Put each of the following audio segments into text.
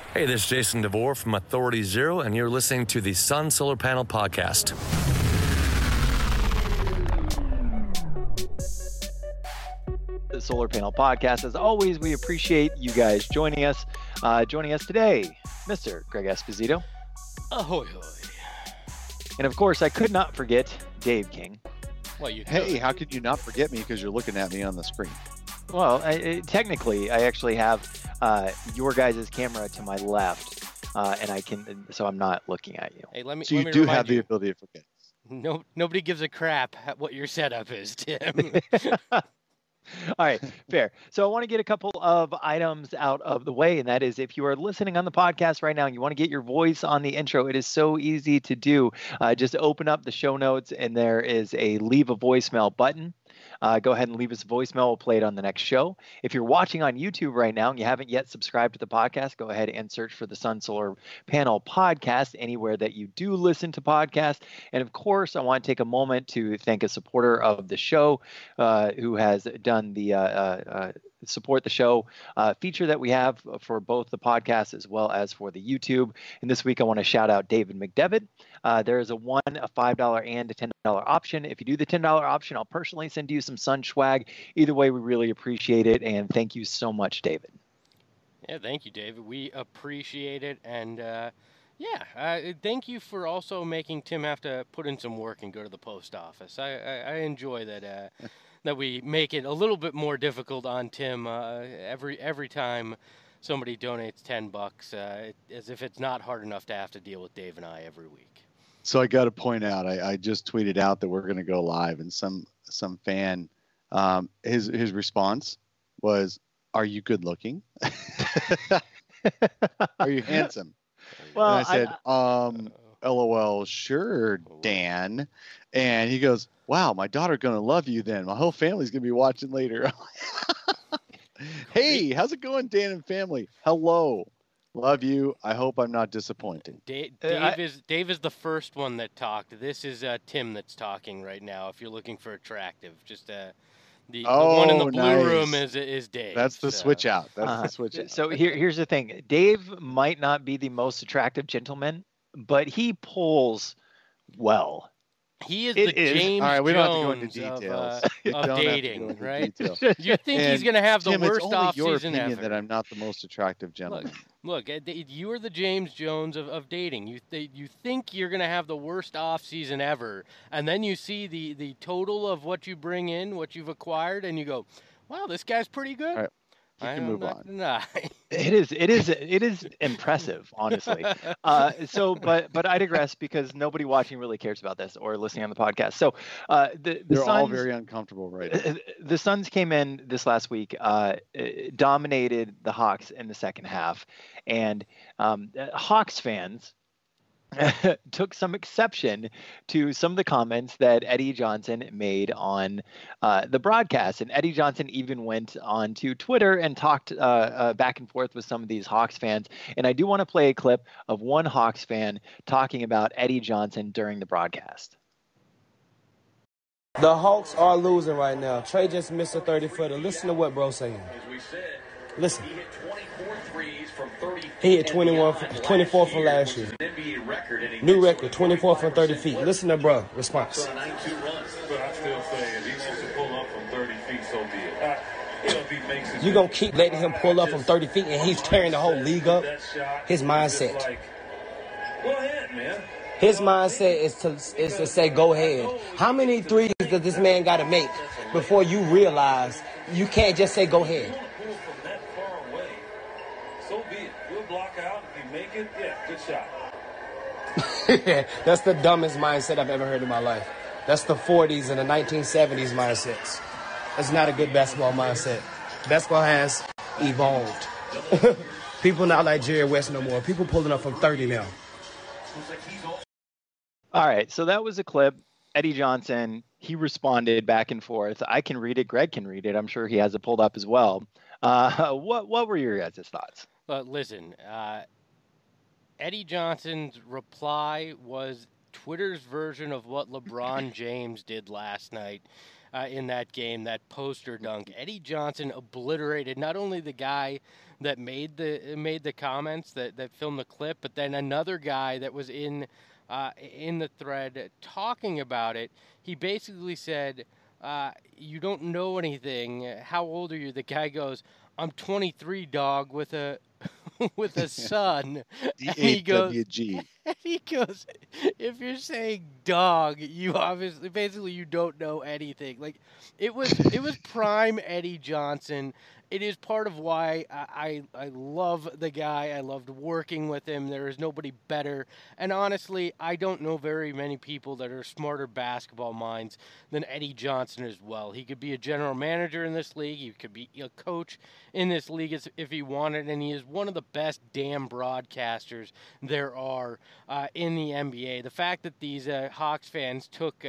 Hey, this is Jason DeVore from Authority Zero, and you're listening to the Sun Solar Panel Podcast. The Solar Panel Podcast. As always, we appreciate you guys joining us. Joining us today, Mr. Greg Esposito. Ahoy, hoy. And of course, I could not forget Dave King. Well, you Hey, how could you not forget me because you're looking at me on the screen? Well, technically, I actually have your guys' camera to my left, and I can, so I'm not looking at you. Hey, let me. So let you me do remind have the ability to forget. Nobody gives a crap at what your setup is, Tim. All right, fair. So I want to get a couple of items out of the way, and that is if you are listening on the podcast right now and you want to get your voice on the intro, it is so easy to do. Just open up the show notes, and there is a leave a voicemail button. Go ahead and leave us a voicemail. We'll play it on the next show. If you're watching on YouTube right now and you haven't yet subscribed to the podcast, go ahead and search for the Sun Solar Panel Podcast anywhere that you do listen to podcasts. And of course, I want to take a moment to thank a supporter of the show who has done the support the show feature that we have for both the podcast as well as for the YouTube. And this week, I want to shout out David McDevitt. There is a $1, a $5, and a $10 option. If you do the $10 option, I'll personally send you some Sun swag. Either way, we really appreciate it. And thank you so much, David. Yeah, thank you, David. We appreciate it. And thank you for also making Tim have to put in some work and go to the post office. I enjoy that. That we make it a little bit more difficult on Tim every time somebody donates $10, as if it's not hard enough to have to deal with Dave and I every week. So I got to point out, I just tweeted out that we're going to go live, and some fan, his response was, "Are you good looking? Are you handsome?" Well, and I said, LOL, sure, Dan. And he goes, "Wow, my daughter's going to love you then. My whole family's going to be watching later." Hey, how's it going, Dan and family? Hello. Love you. I hope I'm not disappointed. Dave is the first one that talked. This is Tim that's talking right now. If you're looking for attractive, just the one in the blue room is Dave. That's the switch out. That's the switch out. So here's the thing. Dave might not be the most attractive gentleman, but he pulls well. He is the James All right, we don't have to go into Jones details. of dating, right? You think he's going to have the Tim, worst it's only off your season opinion ever. that I'm not the most attractive gentleman. Look, you are the James Jones of dating. You think you're going to have the worst off season ever, and then you see the total of what you bring in, what you've acquired, and you go, "Wow, this guy's pretty good." All right. You can move on. It is impressive, honestly. But I digress because nobody watching really cares about this or listening on the podcast. So they're Suns, all very uncomfortable right now. The Suns came in this last week, dominated the Hawks in the second half, and Hawks fans took some exception to some of the comments that Eddie Johnson made on the broadcast. And Eddie Johnson even went on to Twitter and talked back and forth with some of these Hawks fans. And I do want to play a clip of one Hawks fan talking about Eddie Johnson during the broadcast. The Hawks are losing right now. Trey just missed a 30-footer. Listen to what bro's saying. Listen. He hit 24 from last year. New record, 24 from 30 feet. Listen to bro response. But I still say if he wants to pull up from 30 feet, so be it. You're going to keep letting him pull up from 30 feet and he's tearing the whole league up? His mindset. Go ahead, man. His mindset is to say, go ahead. How many threes does this man got to make before you realize you can't just say, go ahead? So be it. We'll block out. If you make it, yeah, good shot. That's the dumbest mindset I've ever heard in my life. That's the 40s and the 1970s mindsets. That's not a good basketball mindset. Basketball has evolved. People not like Jerry West no more. People pulling up from 30 now. All right, so that was a clip. Eddie Johnson, he responded back and forth. I can read it. Greg can read it. I'm sure he has it pulled up as well. What were your guys' thoughts? Listen, Eddie Johnson's reply was Twitter's version of what LeBron James did last night in that game, that poster dunk. Eddie Johnson obliterated not only the guy that made the comments that filmed the clip, but then another guy that was in the thread talking about it. He basically said, "You don't know anything. How old are you?" The guy goes, "I'm 23, dog, with a with a son." And he goes, DHWG. and he goes, "If you're saying dog, you obviously basically you don't know anything." Like it was prime Eddie Johnson. It is part of why I love the guy. I loved working with him. There is nobody better. And honestly, I don't know very many people that are smarter basketball minds than Eddie Johnson as well. He could be a general manager in this league. He could be a coach in this league if he wanted. And he is one of the best damn broadcasters there are in the NBA. The fact that these Hawks fans took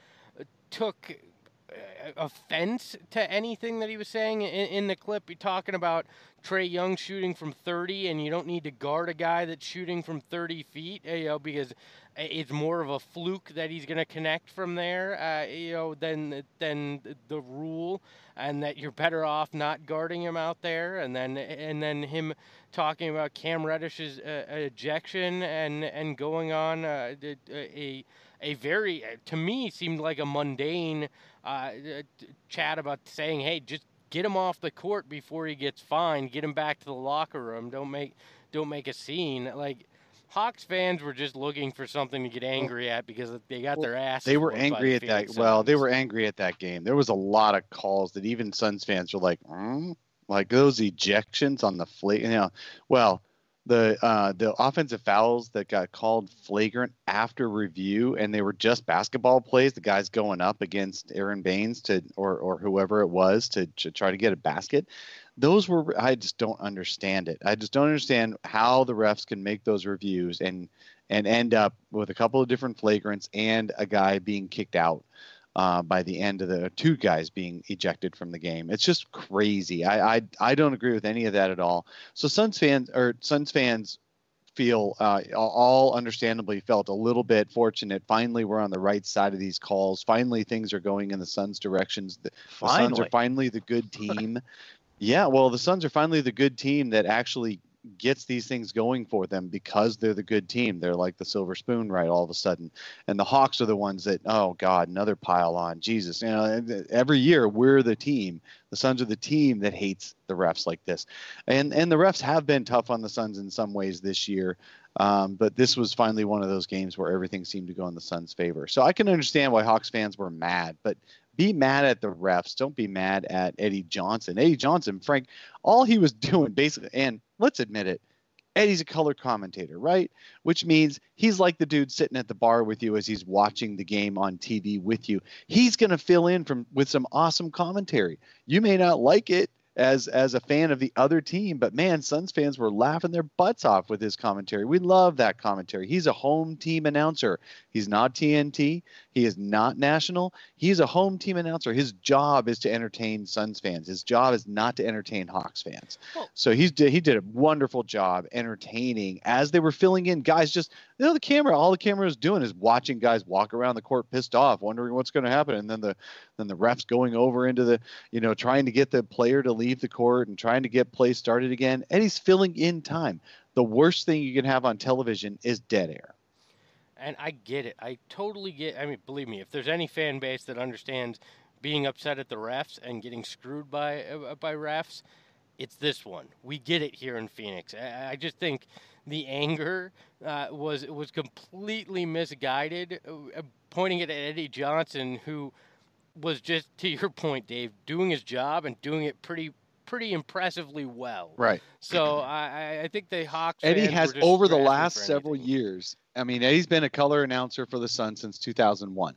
offense to anything that he was saying in the clip. You're talking about Trae Young shooting from 30, and you don't need to guard a guy that's shooting from 30 feet, because it's more of a fluke that he's going to connect from there, than the rule, and that you're better off not guarding him out there. And then him talking about Cam Reddish's ejection and going on a very, to me, seemed like a mundane chat about saying, hey, just get him off the court before he gets fined. Get him back to the locker room. Don't make a scene. Like, Hawks fans were just looking for something to get angry at because they got their asses. They were whooped by angry the at that. Phoenix Well, they Suns. were angry at that game. There was a lot of calls that even Suns fans were like, like those ejections on the well, the offensive fouls that got called flagrant after review, and they were just basketball plays. The guys going up against Aaron Baines or whoever it was to try to get a basket. Those were, I just don't understand it. I just don't understand how the refs can make those reviews and end up with a couple of different flagrants and a guy being kicked out by the end of the two guys being ejected from the game. It's just crazy. I don't agree with any of that at all. So Suns fans feel all understandably felt a little bit fortunate. Finally, we're on the right side of these calls. Finally, things are going in the Suns' directions. The Suns are finally the good team. Yeah, well, the Suns are finally the good team that actually gets these things going for them because they're the good team. They're like the silver spoon, right, all of a sudden. And the Hawks are the ones that, oh, God, another pile on. Jesus, every year we're the team. The Suns are the team that hates the refs like this. And the refs have been tough on the Suns in some ways this year. But this was finally one of those games where everything seemed to go in the Suns' favor. So I can understand why Hawks fans were mad, but be mad at the refs. Don't be mad at Eddie Johnson. Eddie Johnson, Frank, all he was doing basically, and let's admit it, Eddie's a color commentator, right? Which means he's like the dude sitting at the bar with you as he's watching the game on TV with you. He's going to fill in with some awesome commentary. You may not like it as a fan of the other team, but man, Suns fans were laughing their butts off with his commentary. We love that commentary. He's a home team announcer. He's not TNT. He is not national. He's a home team announcer. His job is to entertain Suns fans. His job is not to entertain Hawks fans. So he did a wonderful job entertaining as they were filling in. Guys just, all the camera is doing is watching guys walk around the court pissed off, wondering what's going to happen. And then the refs going over into the, trying to get the player to leave the court and trying to get play started again. And he's filling in time. The worst thing you can have on television is dead air. And I get it. I totally get. I mean, believe me, if there's any fan base that understands being upset at the refs and getting screwed by refs, it's this one. We get it here in Phoenix. I just think the anger was completely misguided, pointing it at Eddie Johnson, who was just, to your point, Dave, doing his job and doing it pretty impressively well. Right. So I think the Hawks Eddie fans has were just over the scratching last for several anything. years. I mean, Eddie's been a color announcer for the Suns since 2001.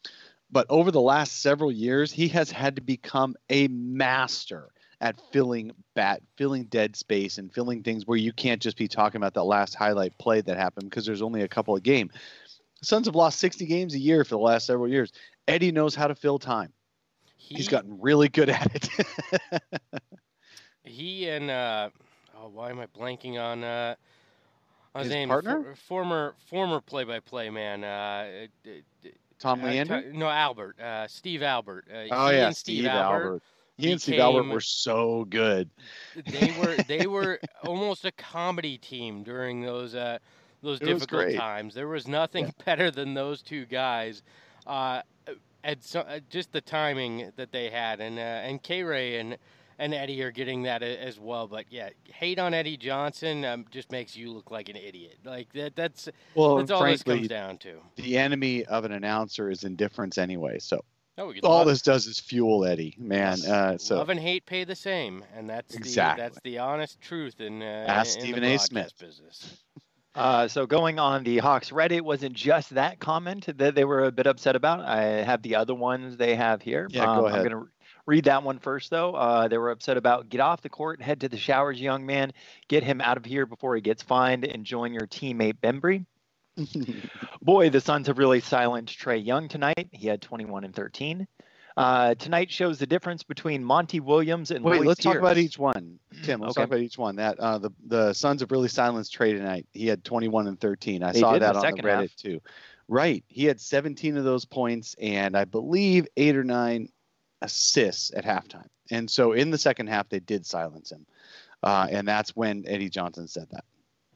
But over the last several years, he has had to become a master at filling dead space and filling things where you can't just be talking about that last highlight play that happened because there's only a couple of games. The Suns have lost 60 games a year for the last several years. Eddie knows how to fill time. He's gotten really good at it. He and why am I blanking on his name? Partner? Former play-by-play man. Tom Leander? No, Albert. Steve Albert. Oh he yeah, and Steve Albert. He and Steve became- Albert were so good. They were almost a comedy team during those was difficult great. times. There was nothing better than those two guys. Just the timing that they had, and K-Ray and Eddie are getting that as well. But yeah, hate on Eddie Johnson just makes you look like an idiot. Like that's all frankly, this comes down to. The enemy of an announcer is indifference anyway. So Oh, all this does is fuel Eddie, man. So love and hate pay the same, and that's Exactly. the honest truth in Ask in Stephen the A. broadcast Smith. business. So going on the Hawks Reddit, wasn't just that comment that they were a bit upset about. I have the other ones they have here. Yeah, go ahead. I'm going to read that one first, though. They were upset about get off the court, head to the showers, young man. Get him out of here before he gets fined and join your teammate Bembry. Boy, the Suns have really silenced Trae Young tonight. He had 21 and 13. Tonight shows the difference between Monty Williams and Wait, Lloyd let's talk about Pierce. each one. Tim, let's Okay. talk about each one. That the Suns have really silenced Trae tonight. He had 21 and 13. I They saw did in that the on the second Reddit half. too. Right. He had 17 of those points and I believe 8 or 9 assists at halftime. And so in the second half, they did silence him. And that's when Eddie Johnson said that.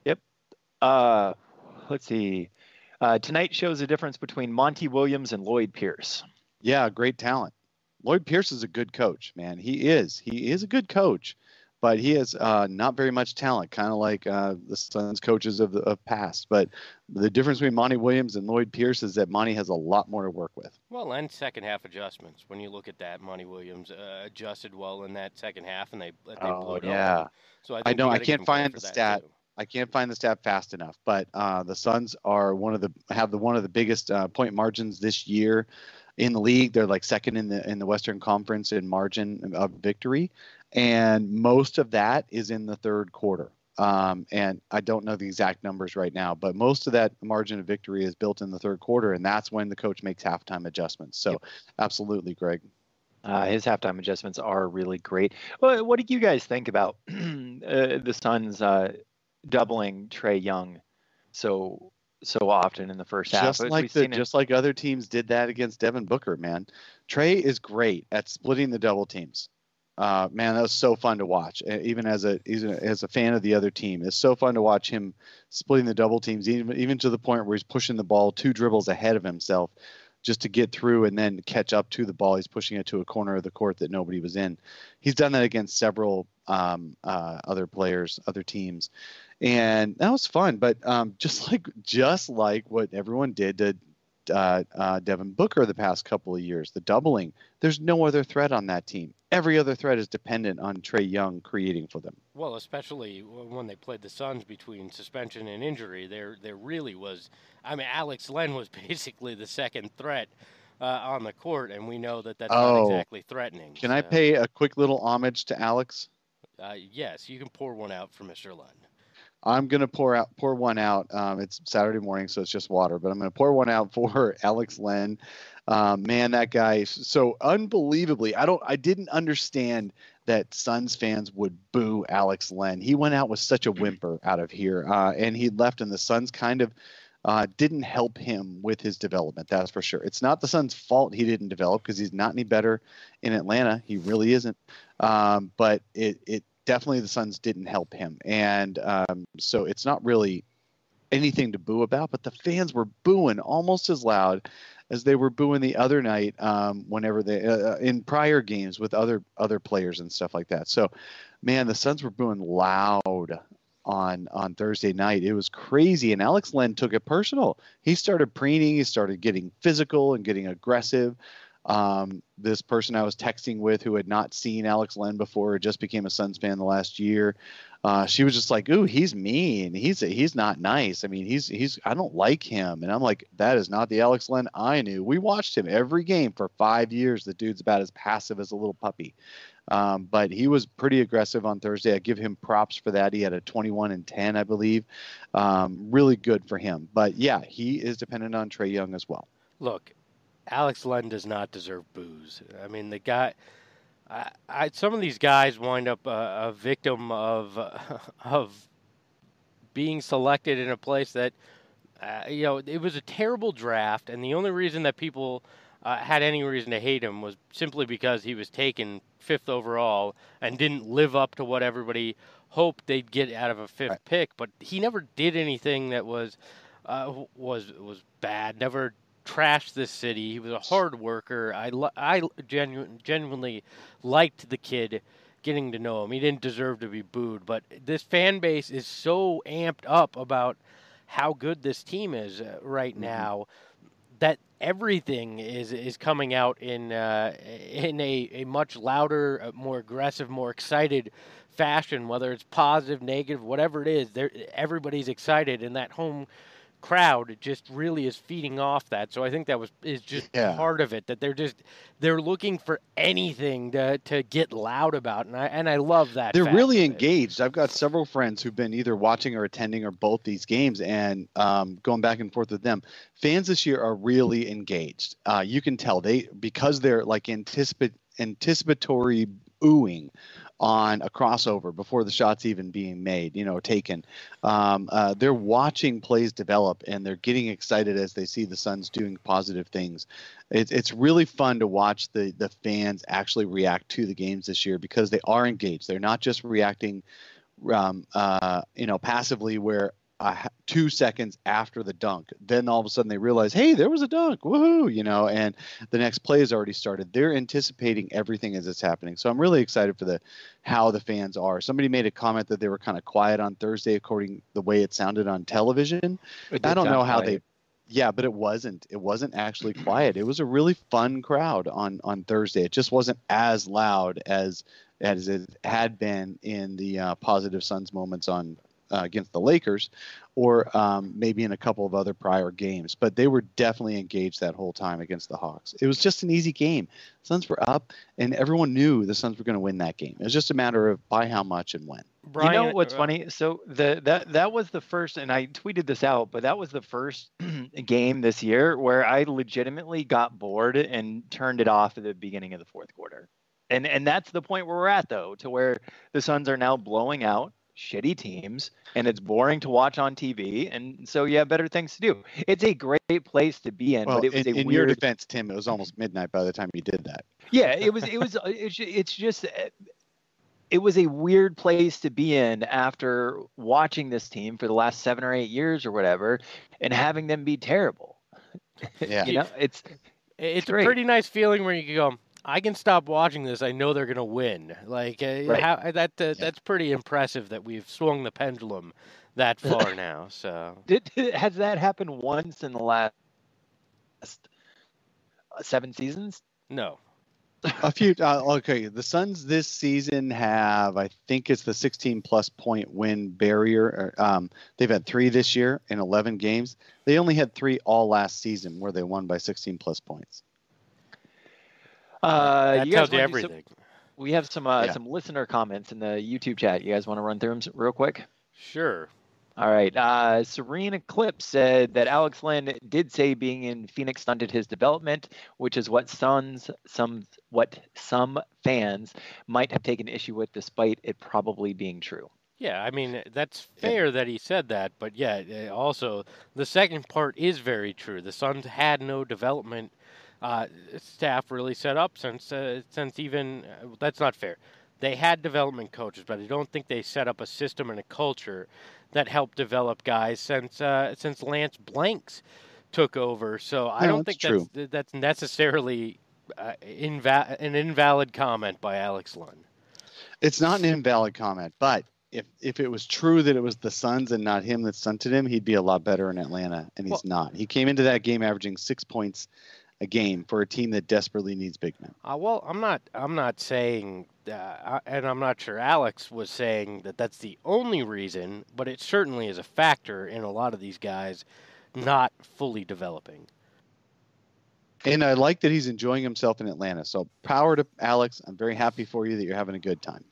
Let's see. Tonight shows the difference between Monty Williams and Lloyd Pierce. Yeah, great talent. Lloyd Pierce is a good coach, man. He is a good coach, but he has not very much talent, kind of like the Suns coaches of past. But the difference between Monty Williams and Lloyd Pierce is that Monty has a lot more to work with. Well, and second half adjustments. When you look at that, Monty Williams adjusted well in that second half, and they blew it yeah. open. So I think know, you I gotta give can't him credit find for the that, stat. too. I can't find the stat fast enough, but the Suns are one of the biggest point margins this year in the league. They're like second in the Western Conference in margin of victory, and most of that is in the third quarter. And I don't know the exact numbers right now, but most of that margin of victory is built in the third quarter, and that's when the coach makes halftime adjustments. So, Absolutely, Greg. His halftime adjustments are really great. Well, what do you guys think about the Suns doubling Trae Young so often in the first half? Just like other teams did that against Devin Booker, man. Trae is great at splitting the double teams. Man, that was so fun to watch. Even as a fan of the other team, it's so fun to watch him splitting the double teams, even to the point where he's pushing the ball 2 dribbles ahead of himself just to get through and then catch up to the ball. He's pushing it to a corner of the court that nobody was in. He's done that against several other players, other teams, and that was fun. But just like what everyone did to Devin Booker the past couple of years, the doubling. There's no other threat on that team. Every other threat is dependent on Trae Young creating for them. Well, especially when they played the Suns between suspension and injury, there really was. I mean, Alex Len was basically the second threat on the court, and we know that that's not exactly threatening. Can I pay a quick little homage to Alex? Yes, you can pour one out for Mr. Len. I'm going to pour one out. It's Saturday morning, so it's just water, but I'm going to pour one out for Alex Len. Man, that guy, so unbelievably, I didn't understand that Suns fans would boo Alex Len. He went out with such a whimper out of here, and he left, and the Suns kind of didn't help him with his development. That's for sure. It's not the Suns' fault he didn't develop, because he's not any better in Atlanta. He really isn't. But it definitely, the Suns didn't help him. And so it's not really anything to boo about, but the fans were booing almost as loud as they were booing the other night whenever they in prior games with other players and stuff like that. So, man, the Suns were booing loud on Thursday night. It was crazy, and Alex Len took it personal. He started preening. He started getting physical and getting aggressive. This person I was texting with, who had not seen Alex Len before, just became a Suns fan the last year. She was just like, "Ooh, he's mean. He's not nice. I mean, I don't like him." And I'm like, "That is not the Alex Len I knew. We watched him every game for 5 years. The dude's about as passive as a little puppy." But he was pretty aggressive on Thursday. I give him props for that. He had a 21 and 10, I believe. Really good for him. But yeah, he is dependent on Trae Young as well. Look, Alex Len does not deserve boos. I mean, the guy. Some of these guys wind up a victim of being selected in a place that it was a terrible draft, and the only reason that people had any reason to hate him was simply because he was taken 5th overall and didn't live up to what everybody hoped they'd get out of a 5th pick. But he never did anything that was bad. Never trashed this city. He was a hard worker. I genuinely liked the kid. Getting to know him, he didn't deserve to be booed. But this fan base is so amped up about how good this team is right now that everything is coming out in a much louder, more aggressive, more excited fashion. Whether it's positive, negative, whatever it is, everybody's excited, and that home crowd just really is feeding off that. So I think that is just part of it, that they're looking for anything to get loud about, and I love that. They're really engaged. I've got several friends who've been either watching or attending or both these games, and going back and forth with them. Fans this year are really engaged. You can tell because they're like anticipatory oohing on a crossover before the shot's even being made, taken. They're watching plays develop, and they're getting excited as they see the Suns doing positive things. It's really fun to watch the fans actually react to the games this year, because they are engaged. They're not just reacting, passively, where 2 seconds after the dunk, then all of a sudden they realize, hey, there was a dunk, woohoo, and the next play has already started. They're anticipating everything as it's happening. So I'm really excited for how the fans are. Somebody made a comment that they were kind of quiet on Thursday, according the way it sounded on television. I don't know how but it wasn't. It wasn't actually quiet. It was a really fun crowd on Thursday. It just wasn't as loud as it had been in the positive Suns moments on against the Lakers, or maybe in a couple of other prior games. But they were definitely engaged that whole time against the Hawks. It was just an easy game. Suns were up, and everyone knew the Suns were going to win that game. It was just a matter of by how much and when. Brian, you know what's funny? So that was the first, and I tweeted this out, but that was the first game this year where I legitimately got bored and turned it off at the beginning of the fourth quarter. And that's the point where we're at, though, to where the Suns are now blowing out shitty teams, and it's boring to watch on TV, and so you have better things to do. It's a great place to be in, but it was in your defense, Tim, it was almost midnight by the time you did that. Yeah, it was a weird place to be in after watching this team for the last 7 or 8 years or whatever, and having them be terrible. Yeah, it's a pretty nice feeling where you can go, I can stop watching this. I know they're going to win. That's pretty impressive that we've swung the pendulum that far now. So has that happened once in the last 7 seasons? No. A few. Okay, the Suns this season have, I think it's the 16-plus point win barrier. They've had 3 this year in 11 games. They only had 3 all last season where they won by 16-plus points. That tells you everything. We have some listener comments in the YouTube chat. You guys want to run through them real quick? Sure. All right. Serene Eclipse said that Alex Len did say being in Phoenix stunted his development, which is what some fans might have taken issue with, despite it probably being true. Yeah, I mean, that's fair that he said that, but also the second part is very true. The Suns had no development staff really set up since even that's not fair. They had development coaches, but I don't think they set up a system and a culture that helped develop guys since Lance Blanks took over. So I don't think that's necessarily an invalid comment by Alex Len. It's not an invalid comment, but if it was true that it was the Suns and not him that stunted him, he'd be a lot better in Atlanta, and he's not. He came into that game averaging 6 points a game for a team that desperately needs big men. Well, I'm not saying, and I'm not sure Alex was saying that that's the only reason, but it certainly is a factor in a lot of these guys not fully developing. And I like that he's enjoying himself in Atlanta. So power to Alex. I'm very happy for you that you're having a good time.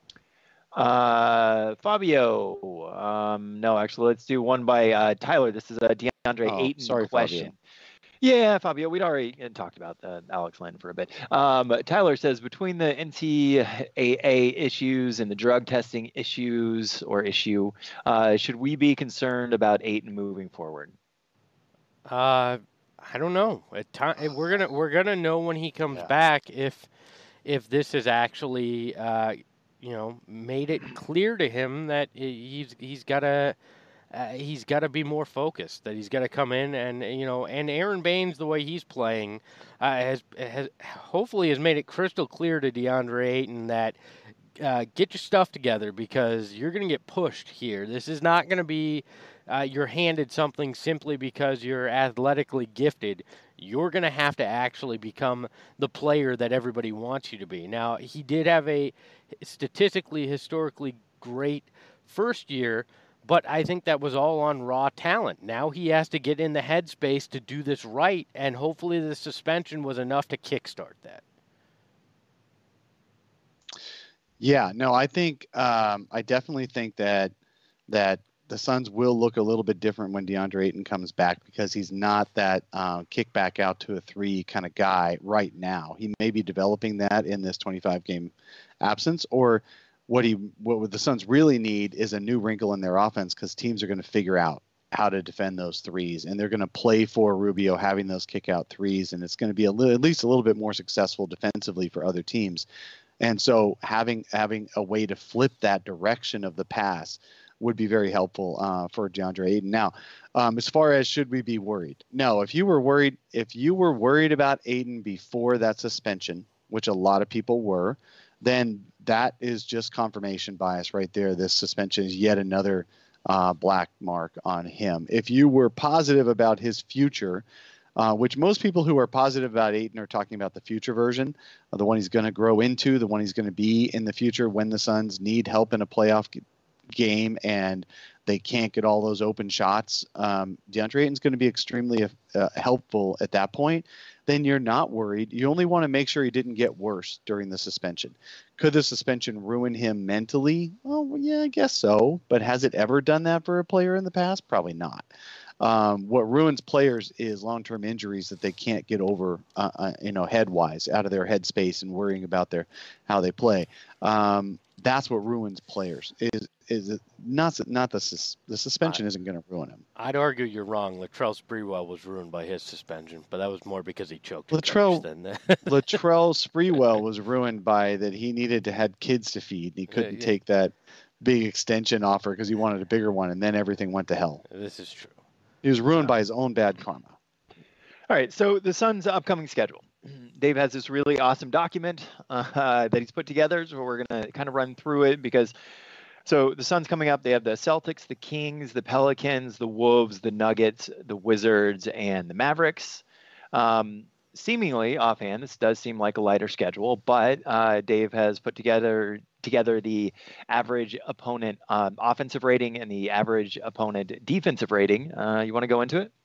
Fabio. No, actually, let's do one by Tyler. This is a DeAndre Ayton question. Fabio. Yeah, Fabio, we'd already talked about Alex Len for a bit. Tyler says, between the NCAA issues and the drug testing issue, should we be concerned about Ayton moving forward? I don't know. We're gonna know when he comes back if this is actually made it clear to him that he's got to be more focused. That he's got to come in and Aaron Baines, the way he's playing, has hopefully has made it crystal clear to DeAndre Ayton that get your stuff together because you're going to get pushed here. This is not going to be you're handed something simply because you're athletically gifted. You're going to have to actually become the player that everybody wants you to be. Now, he did have a statistically, historically great first year, but I think that was all on raw talent. Now he has to get in the headspace to do this right, and hopefully the suspension was enough to kickstart that. Yeah, no, I think I definitely think that the Suns will look a little bit different when DeAndre Ayton comes back because he's not that kick back out to a three kind of guy right now. He may be developing that in this 25-game absence, or what the Suns really need is a new wrinkle in their offense because teams are going to figure out how to defend those threes, and they're going to play for Rubio having those kick out threes, and it's going to be at least a little bit more successful defensively for other teams. And so having a way to flip that direction of the pass would be very helpful for DeAndre Ayton. Now, as far as should we be worried? No, if you were worried about Ayton before that suspension, which a lot of people were, then that is just confirmation bias right there. This suspension is yet another black mark on him. If you were positive about his future, which most people who are positive about Ayton are talking about the future version, the one he's going to grow into, the one he's going to be in the future when the Suns need help in a playoff game and they can't get all those open shots. DeAndre Ayton's going to be extremely helpful at that point. Then you're not worried. You only want to make sure he didn't get worse during the suspension. Could the suspension ruin him mentally? Oh, yeah, I guess so. But has it ever done that for a player in the past? Probably not. What ruins players is long-term injuries that they can't get over, head-wise, out of their headspace and worrying about how they play. That's what ruins players. Is not the suspension isn't going to ruin him. I'd argue you're wrong. Latrell Sprewell was ruined by his suspension, but that was more because he choked. Latrell Sprewell was ruined by that he needed to have kids to feed, and he couldn't take that big extension offer because he wanted a bigger one, and then everything went to hell. This is true. He was ruined by his own bad karma. All right, so the Suns' upcoming schedule. Dave has this really awesome document that he's put together, so we're going to kind of run through it because so the Suns coming up, they have the Celtics, the Kings, the Pelicans, the Wolves, the Nuggets, the Wizards, and the Mavericks. Seemingly, offhand, this does seem like a lighter schedule, but Dave has put together the average opponent offensive rating and the average opponent defensive rating. You want to go into it?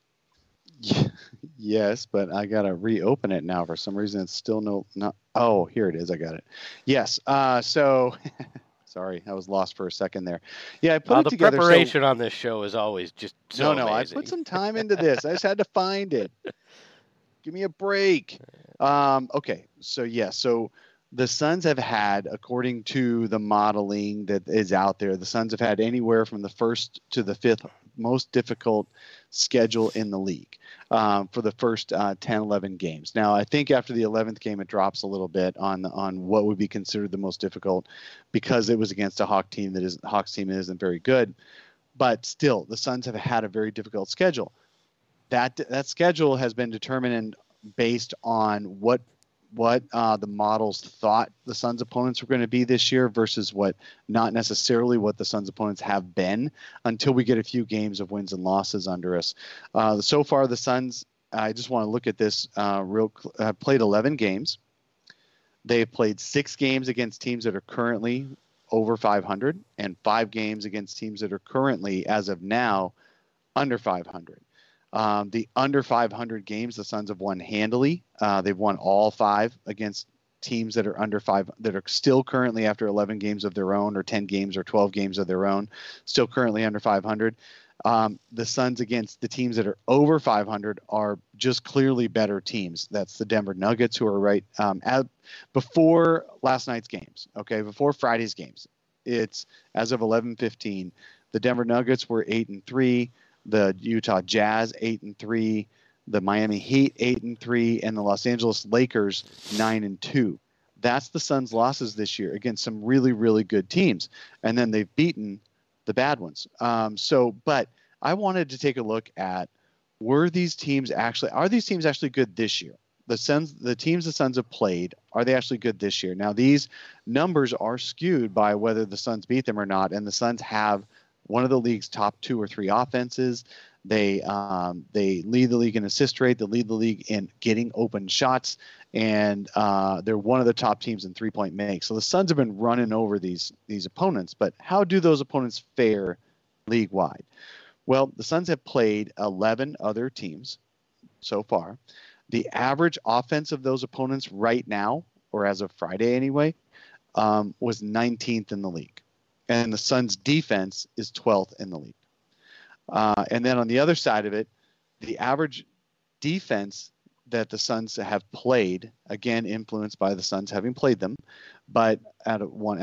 Yes, but I got to reopen it now. For some reason, it's still not. Oh, here it is. I got it. Yes. So sorry, I was lost for a second there. Yeah, I put it together. The preparation on this show is always just so amazing. I put some time into this. I just had to find it. Give me a break. Okay. So so the Suns have had, according to the modeling that is out there, the Suns have had anywhere from the first to the fifth most difficult schedule in the league for the first 10, 11 games. Now, I think after the 11th game, it drops a little bit on what would be considered the most difficult because it was against a Hawks team that isn't very good. But still, the Suns have had a very difficult schedule. That schedule has been determined based on what the models thought the Suns' opponents were going to be this year versus not necessarily what the Suns' opponents have been until we get a few games of wins and losses under us. So far, the Suns, I just want to look at this played 11 games. They've played 6 games against teams that are currently over 500 and 5 games against teams that are currently, as of now, under 500. The under 500 games, the Suns have won handily. They've won all 5 against teams that are under 5, that are still currently after 11 games of their own or 10 games or 12 games of their own, still currently under 500. The Suns against the teams that are over 500 are just clearly better teams. That's the Denver Nuggets, who are right before last night's games. Okay, before Friday's games, it's as of 11:15. The Denver Nuggets were 8-3. the Utah Jazz 8-3, the Miami Heat 8-3, and the Los Angeles Lakers 9-2. That's the Suns' losses this year against some really, really good teams. And then they've beaten the bad ones. But I wanted to take a look at, are these teams actually good this year? The teams the Suns have played, are they actually good this year? Now, these numbers are skewed by whether the Suns beat them or not. And the Suns have one of the league's top 2 or 3 offenses. They lead the league in assist rate. They lead the league in getting open shots. And they're one of the top teams in three-point make. So the Suns have been running over these opponents. But how do those opponents fare league-wide? Well, the Suns have played 11 other teams so far. The average offense of those opponents right now, or as of Friday anyway, was 19th in the league. And the Suns' defense is 12th in the league. And then on the other side of it, the average defense that the Suns have played, again influenced by the Suns having played them, but as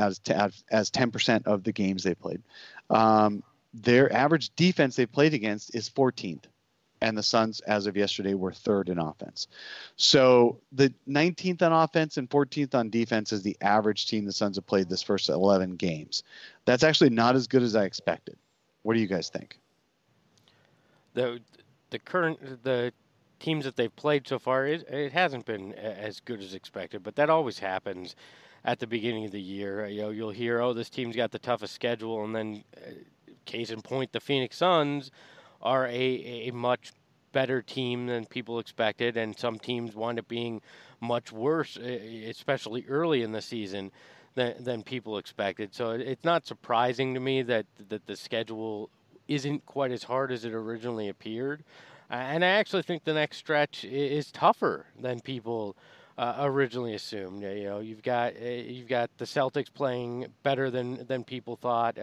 10% of the games they played, their average defense they played against is 14th, and the Suns as of yesterday were 3rd in offense. So the 19th on offense and 14th on defense is the average team the Suns have played this first 11 games. That's actually not as good as I expected. What do you guys think? The teams that they've played so far, it hasn't been as good as expected, but that always happens at the beginning of the year. You'll hear, oh, this team's got the toughest schedule, and then case in point, the Phoenix Suns are a much better team than people expected, and some teams wind up being much worse, especially early in the season, than people expected. So it's not surprising to me that the schedule isn't quite as hard as it originally appeared. And I actually think the next stretch is tougher than people originally assumed. You've got the Celtics playing better than people thought,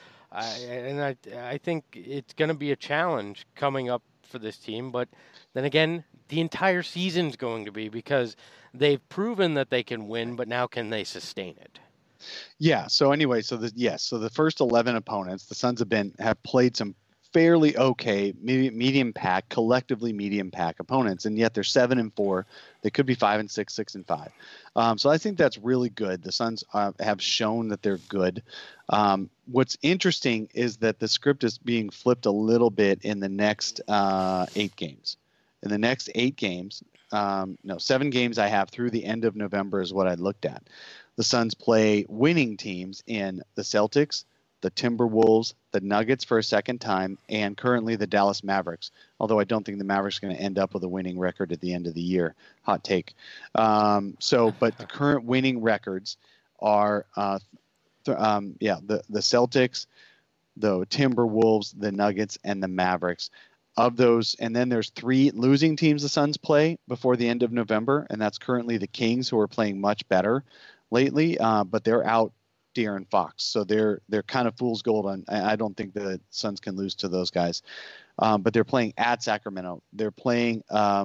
I think it's going to be a challenge coming up for this team. But then again, the entire season's going to be, because they've proven that they can win, but now can they sustain it? Yeah. So anyway, so the first 11 opponents, the Suns have played some fairly okay, medium pack, collectively medium pack opponents, and yet they're 7-4. They could be 5-6, 6-5. So I think that's really good. The Suns have shown that they're good. What's interesting is that the script is being flipped a little bit in the next 8 games. In the next 8 games, 7 games I have through the end of November is what I looked at. The Suns play winning teams in the Celtics, the Timberwolves, the Nuggets for a second time, and currently the Dallas Mavericks, although I don't think the Mavericks are going to end up with a winning record at the end of the year. Hot take. But the current winning records are the Celtics, the Timberwolves, the Nuggets, and the Mavericks. Of those, and then there's 3 losing teams the Suns play before the end of November, and that's currently the Kings, who are playing much better lately, but they're out De'Aaron Fox, so they're kind of fool's gold. I don't think the Suns can lose to those guys, but they're playing at Sacramento. They're playing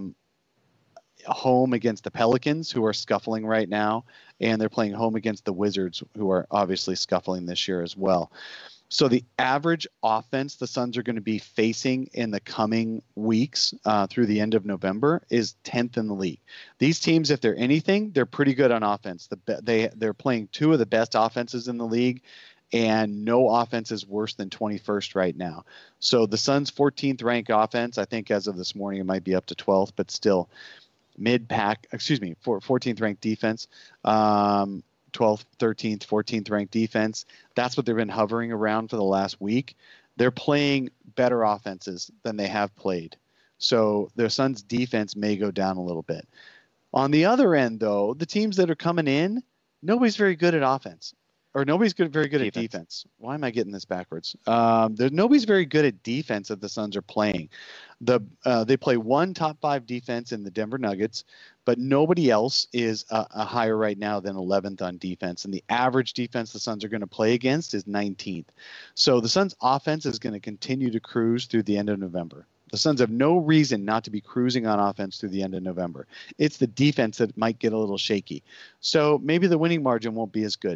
home against the Pelicans, who are scuffling right now, and they're playing home against the Wizards, who are obviously scuffling this year as well. So the average offense the Suns are going to be facing in the coming weeks through the end of November is 10th in the league. These teams, if they're anything, they're pretty good on offense. They're playing 2 of the best offenses in the league, and no offense is worse than 21st right now. So the Suns' 14th ranked offense, I think as of this morning, it might be up to 12th, but still mid-pack, 14th ranked defense. 12th, 13th, 14th ranked defense. That's what they've been hovering around for the last week. They're playing better offenses than they have played. So their Suns' defense may go down a little bit. On the other end, though, the teams that are coming in, nobody's very good at offense. Or nobody's very good at defense. Why am I getting this backwards? Nobody's very good at defense that the Suns are playing. They play 1 top 5 defense in the Denver Nuggets, but nobody else is a higher right now than 11th on defense. And the average defense the Suns are going to play against is 19th. So the Suns' offense is going to continue to cruise through the end of November. The Suns have no reason not to be cruising on offense through the end of November. It's the defense that might get a little shaky. So maybe the winning margin won't be as good.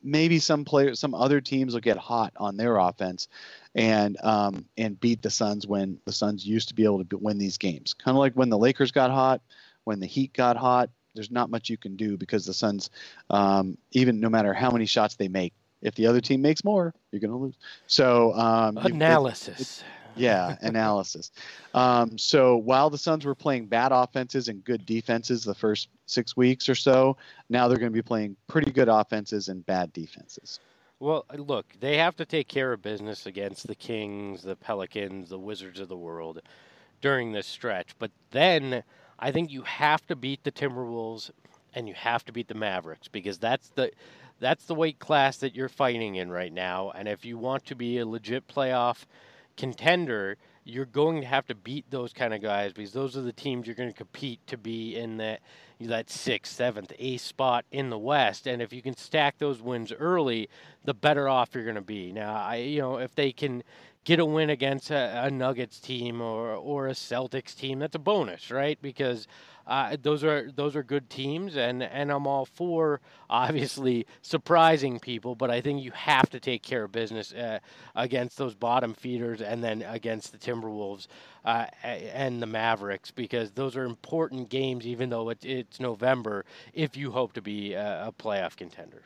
maybe some other teams will get hot on their offense and beat the Suns when the Suns used to be able to win these games. Kind of like when the Lakers got hot, when the Heat got hot. There's not much you can do because the Suns, even no matter how many shots they make, if the other team makes more, you're going to lose. So analysis. Analysis. So while the Suns were playing bad offenses and good defenses the first 6 weeks or so, now they're going to be playing pretty good offenses and bad defenses. Well, look, they have to take care of business against the Kings, the Pelicans, the Wizards of the world during this stretch. But then I think you have to beat the Timberwolves and you have to beat the Mavericks because that's the weight class that you're fighting in right now. And if you want to be a legit playoff contender, you're going to have to beat those kind of guys because those are the teams you're going to compete to be in that 6th, 7th, 8th spot in the West. And if you can stack those wins early, the better off you're going to be. Now, if they can get a win against a Nuggets team or a Celtics team, that's a bonus, right? Because those are good teams, and I'm all for obviously surprising people, but I think you have to take care of business against those bottom feeders and then against the Timberwolves and the Mavericks because those are important games, even though it's November, if you hope to be a playoff contender.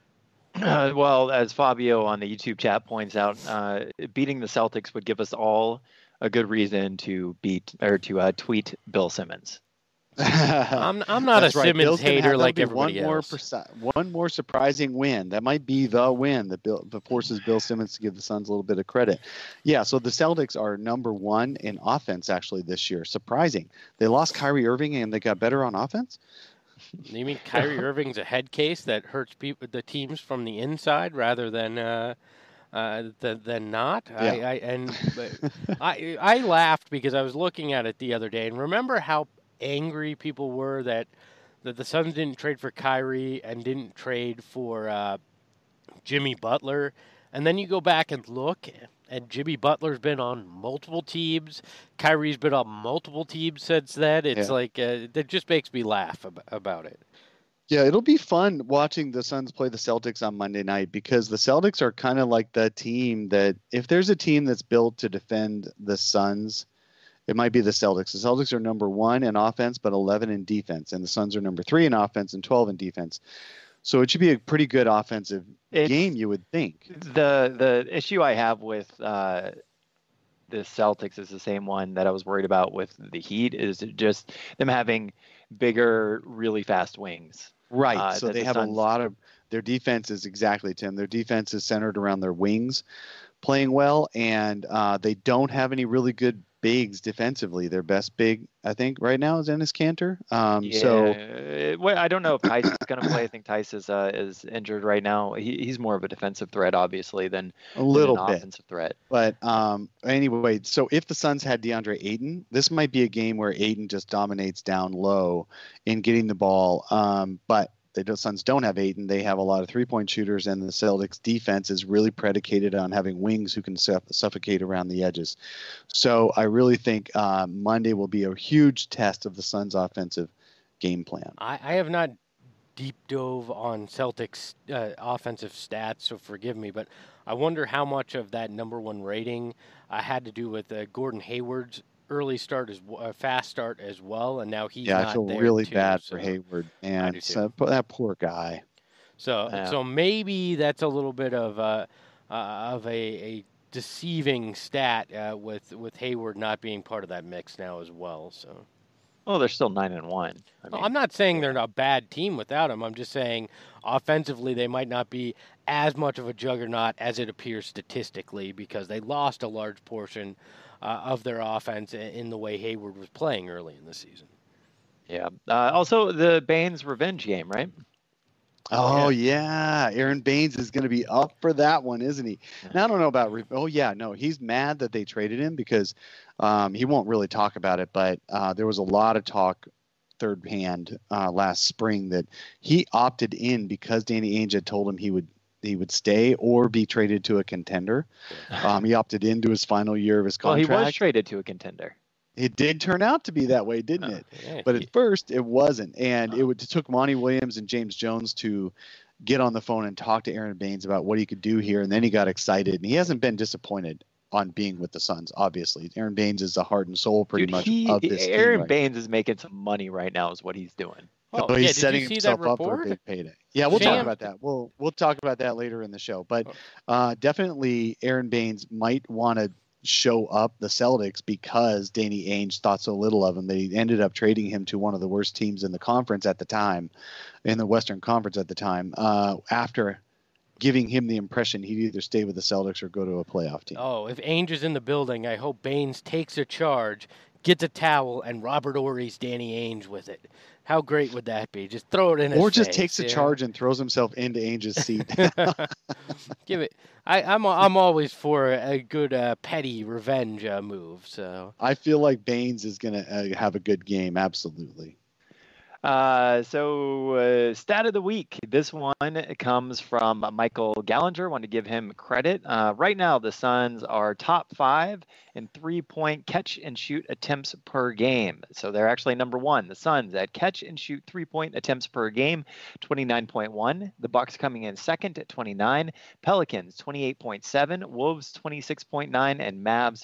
Well, as Fabio on the YouTube chat points out, beating the Celtics would give us all a good reason to tweet Bill Simmons. I'm not a Simmons hater like everybody else. One more surprising win. That might be the win that forces Bill Simmons to give the Suns a little bit of credit. Yeah, so the Celtics are number 1 in offense actually this year. Surprising. They lost Kyrie Irving and they got better on offense. You mean Kyrie Irving's a head case that hurts the teams from the inside rather than not? Yeah. I laughed because I was looking at it the other day and remember how angry people were that the Suns didn't trade for Kyrie and didn't trade for Jimmy Butler. And then you go back and look, and Jimmy Butler's been on multiple teams. Kyrie's been on multiple teams since then. It's that just makes me laugh about it. Yeah, it'll be fun watching the Suns play the Celtics on Monday night because the Celtics are kind of like the team that if there's a team that's built to defend the Suns, it might be the Celtics. The Celtics are number 1 in offense, but 11 in defense. And the Suns are number 3 in offense and 12 in defense. So it should be a pretty good offensive game, you would think. The issue I have with the Celtics is the same one that I was worried about with the Heat, is just them having bigger, really fast wings. Right. So they have a lot of their defense is exactly, Tim. Their defense is centered around their wings playing well, and they don't have any really good bigs defensively. Their best big, I think, right now is Enes Kanter. I don't know if Tice is going to play. I think Tice is injured right now. He's more of a defensive threat, obviously, than a little an bit offensive threat. But anyway, so if the Suns had DeAndre Ayton, this might be a game where Ayton just dominates down low in getting the ball. But the Suns don't have Ayton. They have a lot of three-point shooters, and the Celtics defense is really predicated on having wings who can suffocate around the edges. So I really think Monday will be a huge test of the Suns' offensive game plan. I have not deep dove on Celtics offensive stats, so forgive me, but I wonder how much of that number 1 rating had to do with Gordon Hayward's early start, fast start as well, and now he's not there. I feel really bad so for Hayward, and that poor guy. So maybe that's a little bit of a deceiving stat with Hayward not being part of that mix now as well. So. Well, they're still 9-1. I'm not saying they're a bad team without him. I'm just saying offensively they might not be as much of a juggernaut as it appears statistically because they lost a large portion of their offense in the way Hayward was playing early in the season. Yeah. Also, the Baines revenge game, right? Oh, yeah. Aaron Baines is going to be up for that one, isn't he? Now, I don't know about he's mad that they traded him because he won't really talk about it, but there was a lot of talk third hand last spring that he opted in because Danny Ainge had told him he would stay or be traded to a contender. He opted into his final year of his contract. Well, he was traded to a contender. It did turn out to be that way, didn't it? Yeah, but at first it wasn't. And it took Monty Williams and James Jones to get on the phone and talk to Aaron Baines about what he could do here. And then he got excited, and he hasn't been disappointed on being with the Suns. Obviously, Aaron Baines is the heart and soul pretty much of this team. Aaron Baines is making some money right now is what he's doing. Oh, he's setting himself up for a big payday. Yeah, we'll talk about that. We'll talk about that later in the show. But definitely Aaron Baines might want to show up the Celtics because Danny Ainge thought so little of him that he ended up trading him to one of the worst teams in the conference at the time, in the Western Conference at the time, after giving him the impression he'd either stay with the Celtics or go to a playoff team. Oh, if Ainge is in the building, I hope Baines takes a charge, gets a towel, and Robert Ory's Danny Ainge with it. How great would that be? Just throw it in his face. Or just takes a charge and throws himself into Ainge's seat. Give it. I'm always for a good petty revenge move. So I feel like Baines is going to have a good game. Absolutely. Stat of the week. This one comes from Michael Gallinger. Want to give him credit. Right now, the Suns are top 5 in 3-point catch and shoot attempts per game. So they're actually number 1. The Suns at catch and shoot 3-point attempts per game, 29.1. The Bucks coming in second at 29. Pelicans 28.7. Wolves 26.9, and Mavs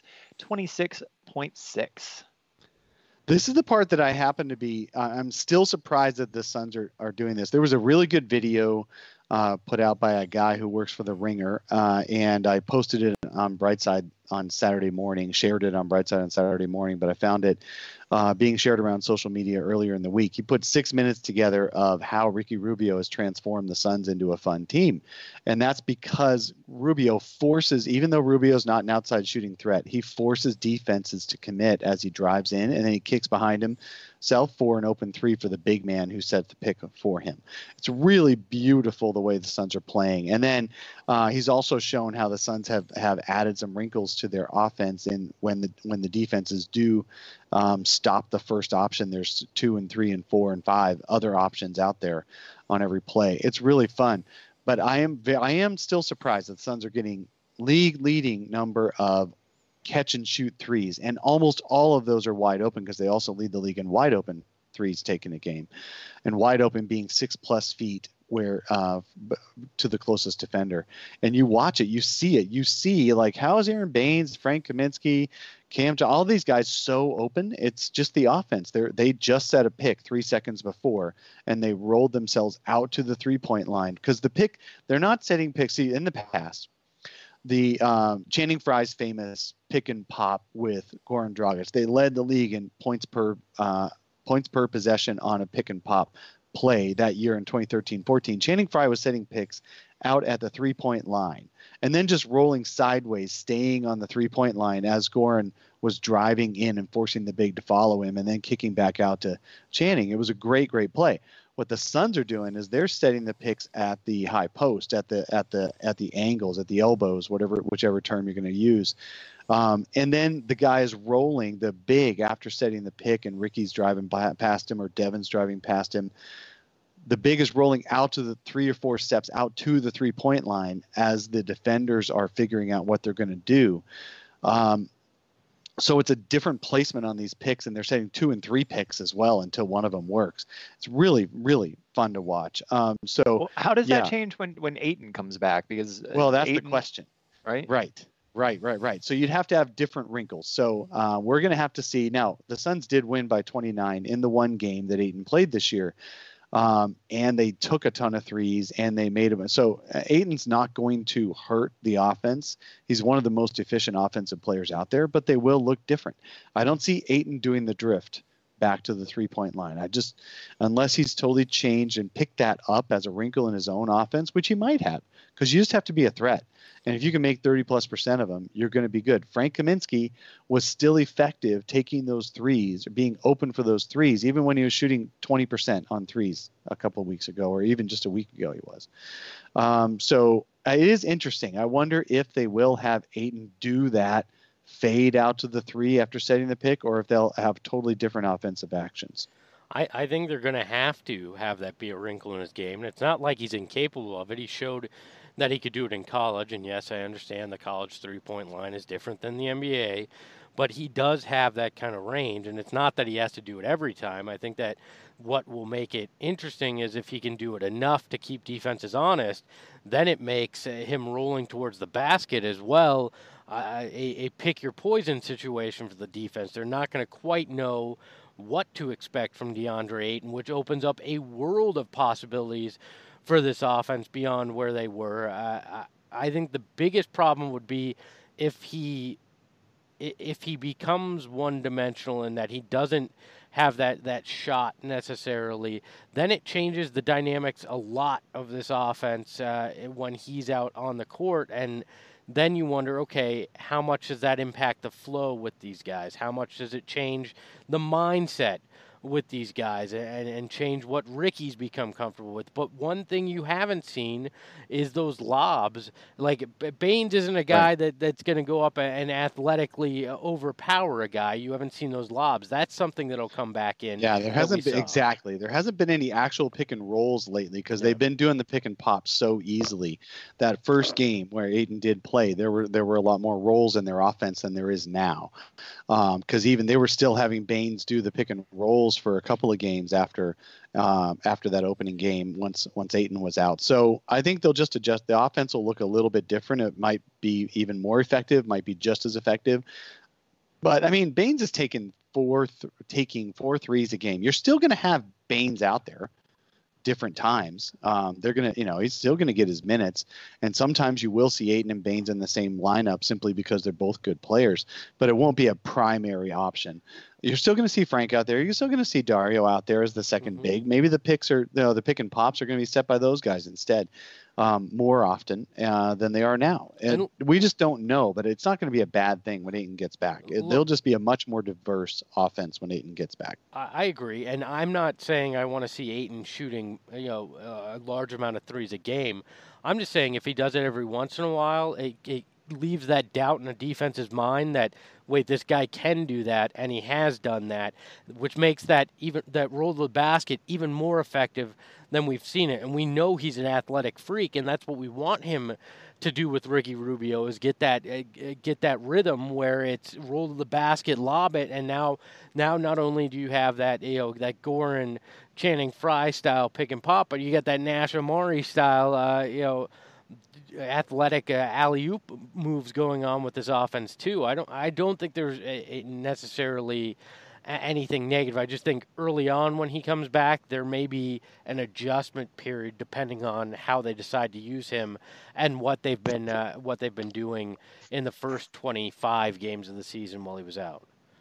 26.6. This is the part that I happen to be, I'm still surprised that the Suns are doing this. There was a really good video put out by a guy who works for The Ringer, and I posted it on Brightside on Saturday morning, shared it on Brightside on Saturday morning, but I found it being shared around social media earlier in the week. He put 6 minutes together of how Ricky Rubio has transformed the Suns into a fun team. And that's because Rubio forces, even though Rubio's not an outside shooting threat, he forces defenses to commit as he drives in, and then he kicks behind himself for an open 3 for the big man who set the pick for him. It's really beautiful the way the Suns are playing. And then he's also shown how the Suns have added some wrinkles to their offense, and when the defenses do stop the first option, there's 2 and 3 and 4 and 5 other options out there on every play. It's really fun, but I am still surprised that the Suns are getting league leading number of catch and shoot threes, and almost all of those are wide open because they also lead the league in wide open threes taken a game, and wide open being 6+ feet where to the closest defender. And you watch it, you see like, how is Aaron Baines, Frank Kaminsky, Cam, all these guys so open? It's just the offense. They just set a pick 3 seconds before, and they rolled themselves out to the 3-point line because the pick, they're not setting picks. See, in the past, the Channing Frye's famous pick and pop with Goran Dragic, they led the league in points per possession on a pick and pop play that year in 2013-14. Channing Frye was setting picks out at the 3-point line and then just rolling sideways, staying on the 3-point line as Goran was driving in and forcing the big to follow him, and then kicking back out to Channing. It was a great Play. What the Suns are doing is they're setting the picks at the high post, at the angles, at the elbows, whichever term you're going to use. And then the guy is rolling the big after setting the pick, and Ricky's driving past him, or Devin's driving past him. The big is rolling out to the 3 or 4 steps out to the 3-point line as the defenders are figuring out what they're going to do. So it's a different placement on these picks, and they're setting 2 and 3 picks as well until one of them works. It's really, really fun to watch. So how does that change when Ayton comes back? Because that's the question, right? Right. So you'd have to have different wrinkles. So we're going to have to see. Now, the Suns did win by 29 in the one game that Ayton played this year. And they took a ton of threes, and they made them. So Ayton's not going to hurt the offense. He's one of the most efficient offensive players out there, but they will look different. I don't see Ayton doing the drift back to the 3-point line. Unless he's totally changed and picked that up as a wrinkle in his own offense, which he might have, because you just have to be a threat. And if you can make 30+% of them, you're going to be good. Frank Kaminsky was still effective taking those threes, or being open for those threes, even when he was shooting 20% on threes a couple of weeks ago, or even just a week ago he was. So it is interesting. I wonder if they will have Ayton do that fade out to the 3 after setting the pick, or if they'll have totally different offensive actions. I think they're going to have that be a wrinkle in his game. And it's not like he's incapable of it. He showed that he could do it in college. And yes, I understand the college three-point line is different than the NBA, but he does have that kind of range. And it's not that he has to do it every time. I think that what will make it interesting is if he can do it enough to keep defenses honest, then it makes him rolling towards the basket as well a pick your poison situation for the defense. They're not going to quite know what to expect from DeAndre Ayton, which opens up a world of possibilities for this offense beyond where they were. I think the biggest problem would be if he becomes one-dimensional and that he doesn't have that shot necessarily, then it changes the dynamics a lot of this offense when he's out on the court. And then you wonder, okay, how much does that impact the flow with these guys? How much does it change the mindset with these guys and change what Ricky's become comfortable with? But one thing you haven't seen is those lobs. Like, Baines isn't a guy that's going to go up and athletically overpower a guy. You haven't seen those lobs. That's something that'll come back in. Yeah, there hasn't been, exactly. There hasn't been any actual pick and rolls lately because they've been doing the pick and pop so easily. That first game where Ayton did play, there were a lot more rolls in their offense than there is now. Because even they were still having Baines do the pick and rolls for a couple of games after that opening game once Ayton was out. So I think they'll just adjust. The offense will look a little bit different. It might be even more effective, might be just as effective. But I mean, Baines is taking four threes a game. You're still going to have Baines out there different times. They're going to, he's still going to get his minutes. And sometimes you will see Ayton and Baines in the same lineup simply because they're both good players, but it won't be a primary option. You're still going to see Frank out there. You're still going to see Dario out there as the second big. Maybe the picks are, the pick and pops are going to be set by those guys instead more often than they are now. And we just don't know, but it's not going to be a bad thing when Ayton gets back. They'll just be a much more diverse offense when Ayton gets back. I agree. And I'm not saying I want to see Ayton shooting, a large amount of threes a game. I'm just saying if he does it every once in a while, it leaves that doubt in a defense's mind that, wait, this guy can do that, and he has done that, which makes that roll to the basket even more effective than we've seen it. And we know he's an athletic freak, and that's what we want him to do with Ricky Rubio is get that rhythm where it's roll to the basket, lob it, and now not only do you have that that Goran Channing Frye style pick and pop, but you get that Nash Amari style athletic alley-oop moves going on with this offense too. I don't think there's necessarily anything negative. I just think early on when he comes back, there may be an adjustment period depending on how they decide to use him and what they've been doing in the first 25 games of the season while he was out.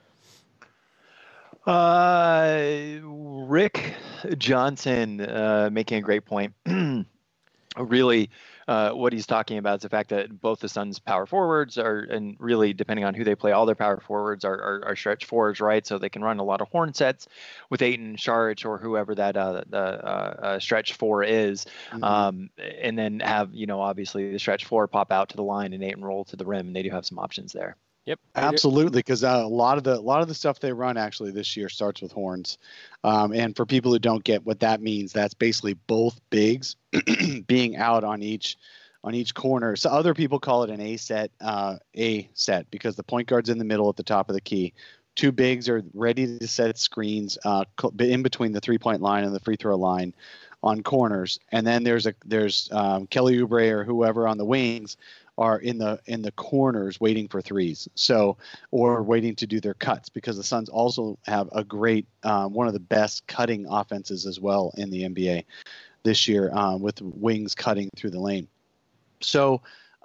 Rick Johnson making a great point. Really, what he's talking about is the fact that both the Suns' power forwards are, and really depending on who they play, all their power forwards are stretch fours, right? So they can run a lot of horn sets with Ayton, Šarić, or whoever that stretch four is, and then have obviously the stretch four pop out to the line and Ayton roll to the rim, and they do have some options there. Yep, absolutely. Because a lot of the stuff they run actually this year starts with horns, and for people who don't get what that means, that's basically both bigs being out on each corner. So other people call it an A set because the point guard's in the middle at the top of the key. Two bigs are ready to set screens in between the 3-point line and the free throw line on corners, and then there's Kelly Oubre or whoever on the wings are in the corners waiting for threes, or waiting to do their cuts, because the Suns also have a great one of the best cutting offenses as well in the NBA this year, with wings cutting through the lane. So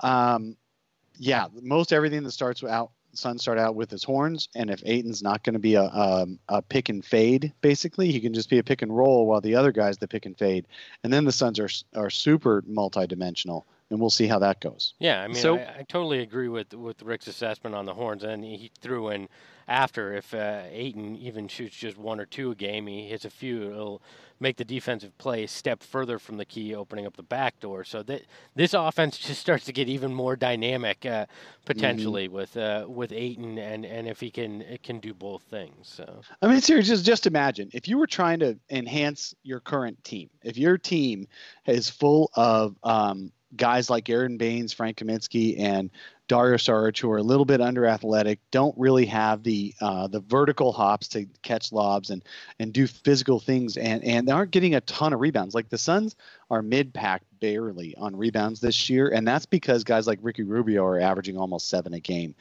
most everything that Suns start out with his horns, and if Ayton's not going to be a pick and fade, basically he can just be a pick and roll while the other guy's the pick and fade, and then the Suns are super multidimensional. And we'll see how that goes. Yeah, I mean, I totally agree with Rick's assessment on the horns. And he threw in after, if Ayton even shoots just one or two a game, he hits a few, it'll make the defensive play step further from the key, opening up the back door. So this offense just starts to get even more dynamic potentially with Ayton, and if he can do both things. So I mean, seriously, just imagine if you were trying to enhance your current team. If your team is full of guys like Aaron Baines, Frank Kaminsky, and Dario Saric, who are a little bit under athletic, don't really have the vertical hops to catch lobs and do physical things, and they aren't getting a ton of rebounds. Like the Suns are mid-pack barely on rebounds this year, and that's because guys like Ricky Rubio are averaging almost 7 a game.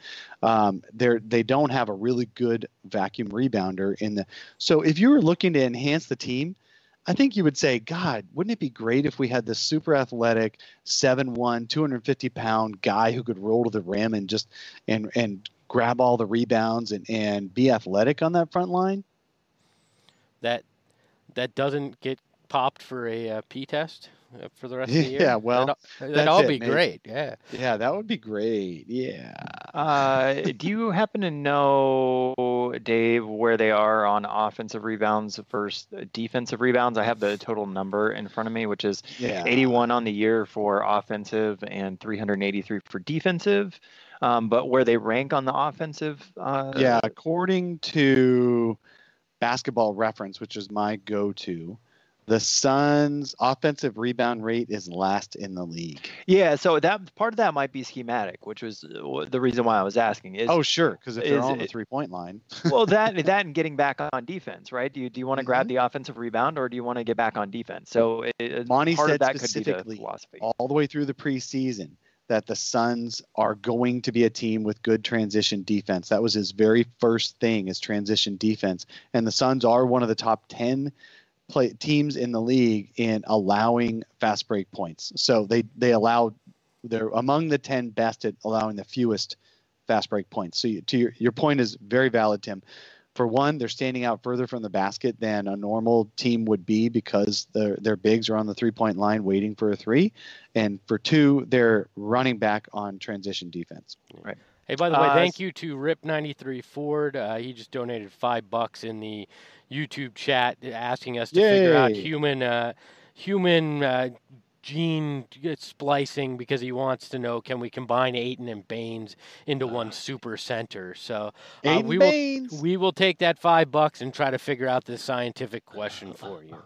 They don't have a really good vacuum rebounder so if you were looking to enhance the team, I think you would say, God, wouldn't it be great if we had this super athletic 7'1", 250-pound guy who could roll to the rim and just and grab all the rebounds and be athletic on that front line? That doesn't get popped for a P test for the rest of the year? Yeah, well, that'd all be great. Yeah. Yeah, that would be great. Yeah. Do you happen to know, Dave, where they are on offensive rebounds versus defensive rebounds? I have the total number in front of me, which is 81 on the year for offensive and 383 for defensive. But where they rank on the offensive? According to Basketball Reference, which is my go-to, the Suns' offensive rebound rate is last in the league. Yeah, so that part of that might be schematic, which was the reason why I was asking. Sure, because if they're on the three-point line. Well, that and getting back on defense, right? Do you want to grab the offensive rebound, or do you want to get back on defense? So Monty part said of that specifically, could be the philosophy. all the way through the preseason, that the Suns are going to be a team with good transition defense. That was his very first thing, is transition defense. And the Suns are one of the top 10 teams in the league in allowing fast break points. So they're among the 10 best at allowing the fewest fast break points. So your point is very valid, Tim. For one, they're standing out further from the basket than a normal team would be because their bigs are on the 3-point line waiting for a three. And for two, they're running back on transition defense. Right. Hey, by the way, thank you to Rip93 Ford. He just donated $5 in the YouTube chat, asking us to figure out human gene splicing, because he wants to know, can we combine Ayton and Baines into one super center? So we will take that $5 and try to figure out this scientific question for you.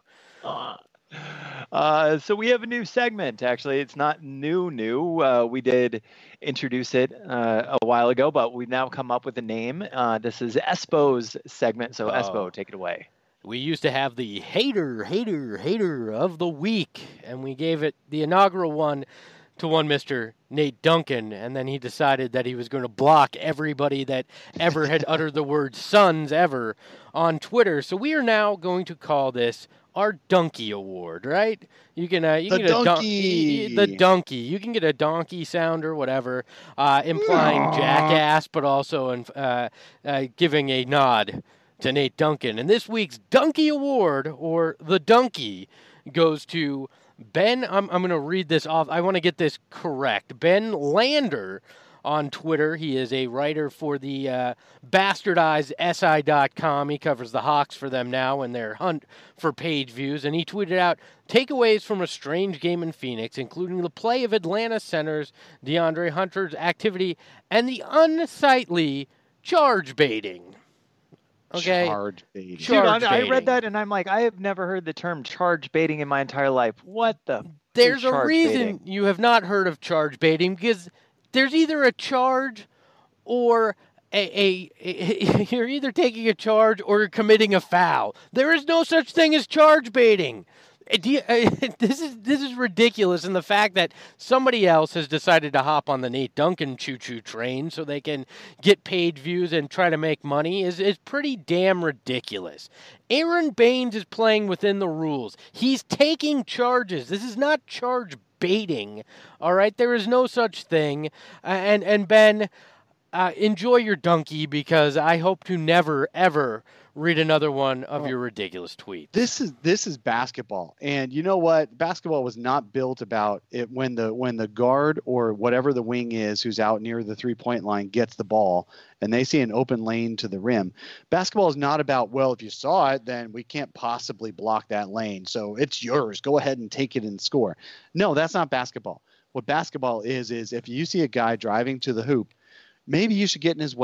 So we have a new segment. Actually, it's not new. We did introduce it a while ago, but we've now come up with a name. This is Espo's segment. So Espo, take it away. We used to have the hater of the week, and we gave it the inaugural one to one Mr. Nate Duncan, and then he decided that he was going to block everybody that ever had uttered the word Suns ever on Twitter. So we are now going to call this our Donkey Award, right? You can get the donkey. You can get a donkey sound or whatever, implying jackass, but also giving a nod to Nate Duncan. And this week's Donkey Award, or the Donkey, goes to Ben. I'm going to read this off. I want to get this correct. Ben Lander on Twitter. He is a writer for the bastardized SI.com. He covers the Hawks for them now in their hunt for page views. And he tweeted out takeaways from a strange game in Phoenix, including the play of Atlanta centers DeAndre Hunter's activity and the unsightly charge baiting. Okay. Charge baiting. Dude, I read that and I'm like, I have never heard the term charge baiting in my entire life. What the? There's a reason you have not heard of charge baiting, because there's either a charge or you're either taking a charge or you're committing a foul. There is no such thing as charge baiting. This is ridiculous, and the fact that somebody else has decided to hop on the Nate Duncan choo-choo train so they can get paid views and try to make money is pretty damn ridiculous. Aaron Baines is playing within the rules. He's taking charges. This is not charge baiting. All right, there is no such thing. And Ben, enjoy your donkey, because I hope to never ever read another one of your ridiculous tweets. This is basketball, and you know what? Basketball was not built about it when the guard or whatever the wing is who's out near the 3-point line gets the ball and they see an open lane to the rim. Basketball is not about, well, if you saw it, then we can't possibly block that lane, so it's yours. Go ahead and take it and score. No, that's not basketball. What basketball is if you see a guy driving to the hoop, maybe you should get in his way.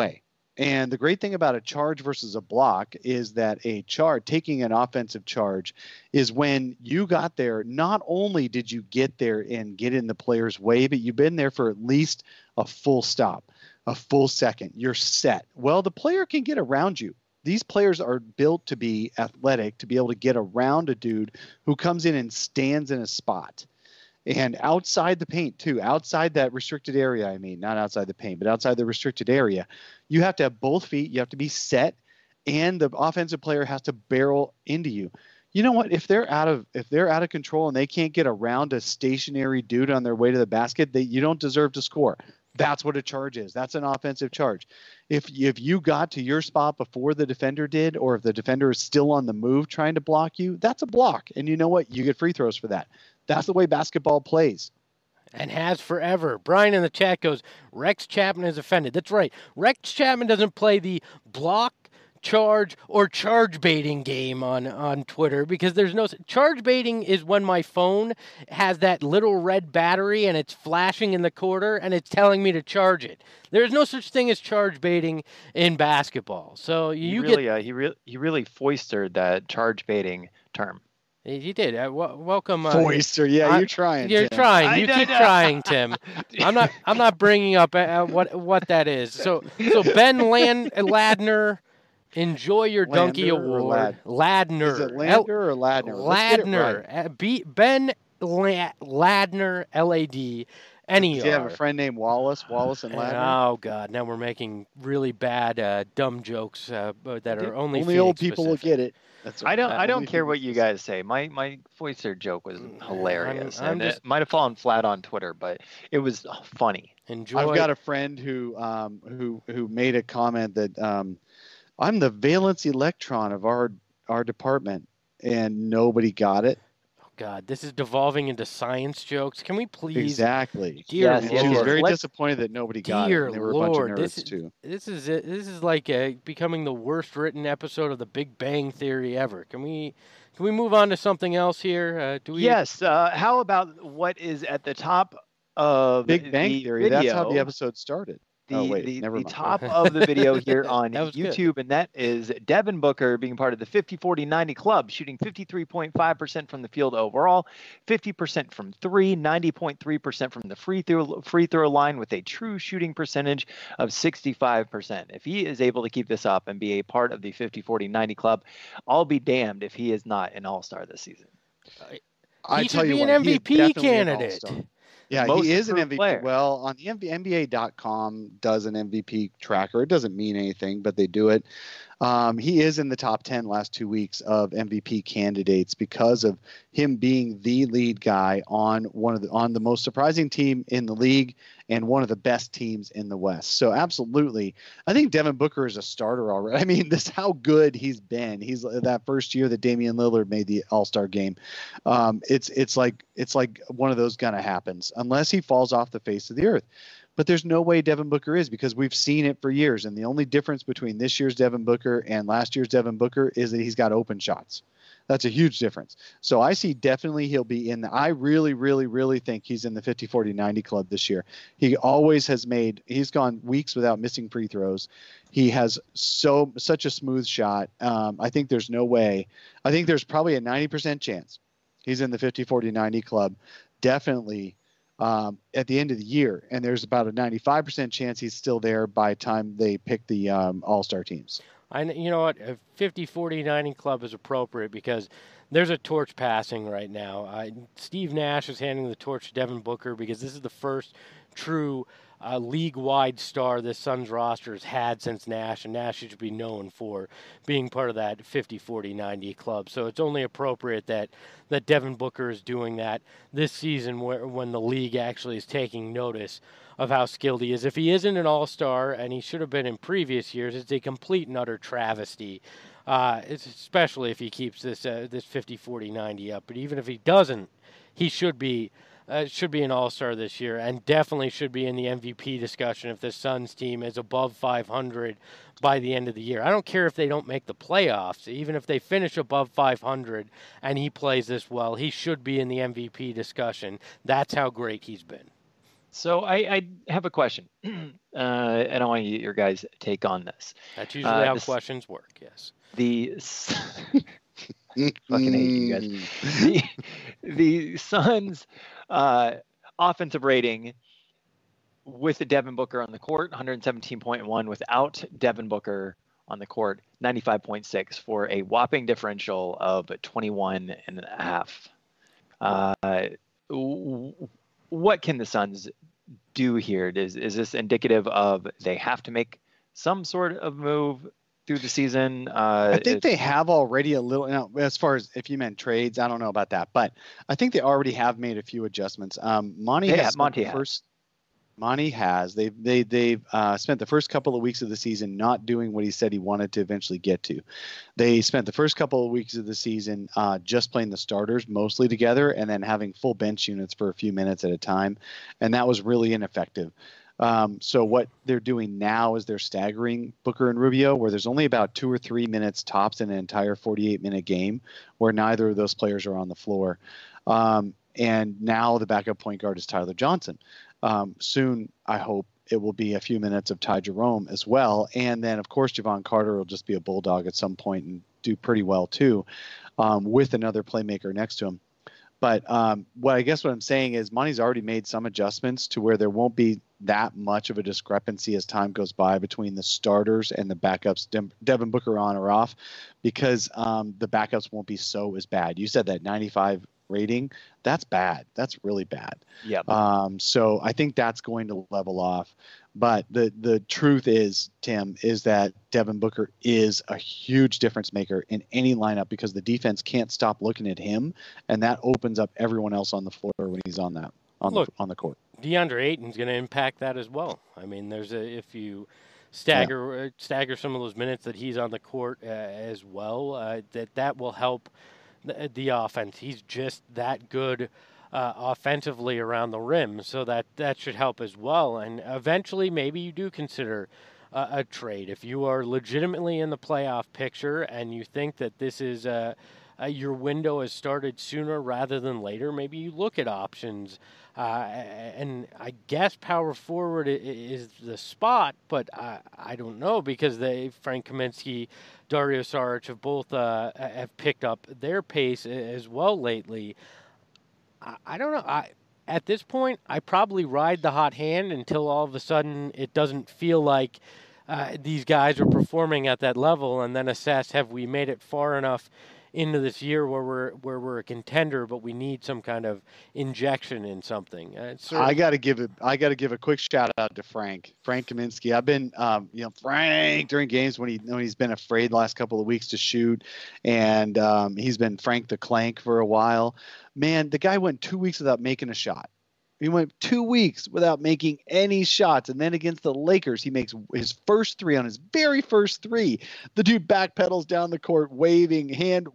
And the great thing about a charge versus a block is that taking an offensive charge is when you got there, not only did you get there and get in the player's way, but you've been there for at least a full stop, a full second. You're set. Well, the player can get around you. These players are built to be athletic, to be able to get around a dude who comes in and stands in a spot. And outside the paint, too, outside that restricted area, I mean, not outside the paint, but outside the restricted area, you have to have both feet. You have to be set, and the offensive player has to barrel into you. You know what? If they're out of control and they can't get around a stationary dude on their way to the basket, you don't deserve to score. That's what a charge is. That's an offensive charge. If you got to your spot before the defender did, or if the defender is still on the move trying to block you, that's a block. And you know what? You get free throws for that. That's the way basketball plays. And has forever. Brian in the chat goes, Rex Chapman is offended. That's right. Rex Chapman doesn't play the block, charge, or charge baiting game on Twitter, because there's no... Charge baiting is when my phone has that little red battery and it's flashing in the corner and it's telling me to charge it. There's no such thing as charge baiting in basketball. So he really foisted that charge baiting term. He did. Welcome, Foister. Yeah, you're trying. You're Tim. trying. You keep trying, Tim. I'm not bringing up what that is. So Ben Ladner, enjoy your Donkey Award. Ladner. Is it Lander or Ladner? Ladner. Ben Ladner. LAD. NER. Did you have a friend named Wallace and Ladner? Oh God! Now we're making really bad, dumb jokes that are only old people will get it. That's right. I don't care what you guys say. My Foister joke was hilarious, and it might have fallen flat on Twitter, but it was funny. I've got a friend who made a comment that I'm the valence electron of our department, and nobody got it. God, this is devolving into science jokes. Can we please? Exactly. Dear yes, Lord. She was very disappointed that nobody got it. And there were a bunch of nerds too. This is like becoming the worst written episode of The Big Bang Theory ever. Can we move on to something else here? Yes. How about what is at the top of Big Bang Theory? Video? That's how the episode started. The top of the video here on YouTube, and that is Devin Booker being part of the 50-40-90 club, shooting 53.5% from the field overall, 50% from three, 90.3% from the free throw line, with a true shooting percentage of 65%. If he is able to keep this up and be a part of the 50-40-90 club, I'll be damned if he is not an all-star this season. He should be an MVP candidate. Yeah, he is an MVP. Player. Well, on the NBA.com does an MVP tracker. It doesn't mean anything, but they do it. He is in the top 10 last 2 weeks of MVP candidates because of him being the lead guy on on the most surprising team in the league and one of the best teams in the West. So absolutely, I think Devin Booker is a starter already. I mean, this how good he's been. He's that first year that Damian Lillard made the All-Star game. It's like one of those gonna happens unless he falls off the face of the earth. But there's no way Devin Booker is, because we've seen it for years. And the only difference between this year's Devin Booker and last year's Devin Booker is that he's got open shots. That's a huge difference. So I see definitely he'll be in I really, really, really think he's in the 50-40-90 club this year. He always has he's gone weeks without missing free throws. He has such a smooth shot. I think there's no way. I think there's probably a 90% chance he's in the 50-40-90 club. Definitely. At the end of the year, and there's about a 95% chance he's still there by the time they pick the all-star teams. You know what? A 50-40-90 club is appropriate because there's a torch passing right now. Steve Nash is handing the torch to Devin Booker because this is the first true league-wide star this Suns roster has had since Nash, and Nash should be known for being part of that 50-40-90 club. So it's only appropriate that Devin Booker is doing that this season when the league actually is taking notice of how skilled he is. If he isn't an all-star, and he should have been in previous years, it's a complete and utter travesty, especially if he keeps this 50-40-90 up. But even if he doesn't, he should be an all-star this year, and definitely should be in the MVP discussion if the Suns team is above 500 by the end of the year. I don't care if they don't make the playoffs. Even if they finish above 500 and he plays this well, he should be in the MVP discussion. That's how great he's been. So I have a question, and I want to get your guys' take on this. That's usually how this- questions work. Yes. The fucking hate you guys. The Suns' offensive rating with the Devin Booker on the court, 117.1. Without Devin Booker on the court, 95.6 for a whopping differential of 21.5. What can the Suns do here? Is this indicative of they have to make some sort of move through the season? I think they have already a little. Now, as far as if you meant trades, I don't know about that, but I think they already have made a few adjustments. Monty has. They've spent the first couple of weeks of the season not doing what he said he wanted to eventually get to. They spent the first couple of weeks of the season just playing the starters mostly together and then having full bench units for a few minutes at a time, and that was really ineffective. So what they're doing now is they're staggering Booker and Rubio, where there's only about 2 or 3 minutes tops in an entire 48-minute game where neither of those players are on the floor. And now the backup point guard is Tyler Johnson. Soon, I hope it will be a few minutes of Ty Jerome as well. And then, of course, Javon Carter will just be a bulldog at some point and do pretty well, too, with another playmaker next to him. But what I'm saying is Monty's already made some adjustments to where there won't be that much of a discrepancy as time goes by between the starters and the backups, Devin Booker on or off, because the backups won't be so as bad. You said that 95 rating, that's bad. That's really bad. Yeah. So I think that's going to level off. But the truth is, Tim, is that Devin Booker is a huge difference maker in any lineup because the defense can't stop looking at him, and that opens up everyone else on the floor when he's on the court. DeAndre Ayton's going to impact that as well. I mean, if you stagger some of those minutes that he's on the court as well, that will help the offense. He's just that good offensively around the rim, so that should help as well. And eventually, maybe you do consider a trade if you are legitimately in the playoff picture and you think that this is your window has started sooner rather than later. Maybe you look at options. And I guess power forward is the spot, but I don't know because Frank Kaminsky, Dario Saric have both have picked up their pace as well lately. I don't know. At this point, I probably ride the hot hand until all of a sudden it doesn't feel like these guys are performing at that level, and then assess, have we made it far enough into this year where we're a contender, but we need some kind of injection in something. I got to give a quick shout out to Frank Kaminsky. I've been, Frank during games when he's been afraid the last couple of weeks to shoot, and he's been Frank the Clank for a while. Man, the guy went 2 weeks without making a shot. He went 2 weeks without making any shots. And then against the Lakers, he makes his first three on his very first three. The dude backpedals down the court, waving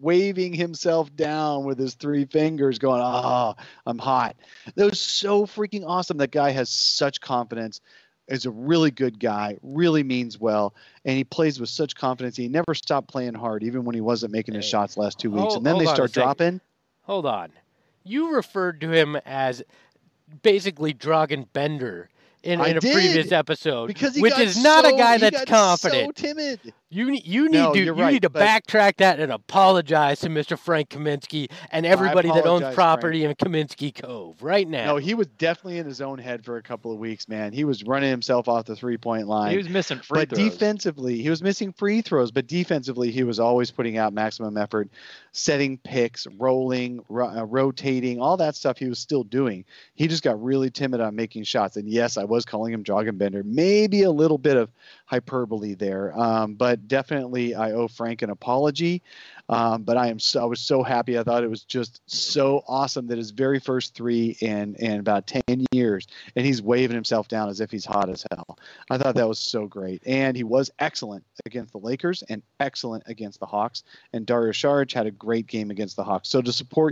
himself down with his three fingers going, "Oh, I'm hot." That was so freaking awesome. That guy has such confidence. Is a really good guy, really means well. And he plays with such confidence. He never stopped playing hard, even when he wasn't making his shots last 2 weeks. And then they start dropping. Hold on. You referred to him as basically Dragan Bender in a previous episode, which is not a guy that's confident. So timid. You need to backtrack that and apologize to Mr. Frank Kaminsky and everybody that owns property in Kaminsky Cove right now. No, he was definitely in his own head for a couple of weeks, man. He was running himself off the 3-point line. He was missing free throws. Defensively, he was missing free throws, but defensively, he was always putting out maximum effort, setting picks, rolling, rotating, all that stuff he was still doing. He just got really timid on making shots. And yes, I was calling him Dragan Bender. Maybe a little bit of hyperbole there, but definitely I owe Frank an apology. But I was so happy. I thought it was just so awesome that his very first three in about 10 years, and he's waving himself down as if he's hot as hell. I thought that was so great. And he was excellent against the Lakers and excellent against the Hawks. And Dario Saric had a great game against the Hawks. So to support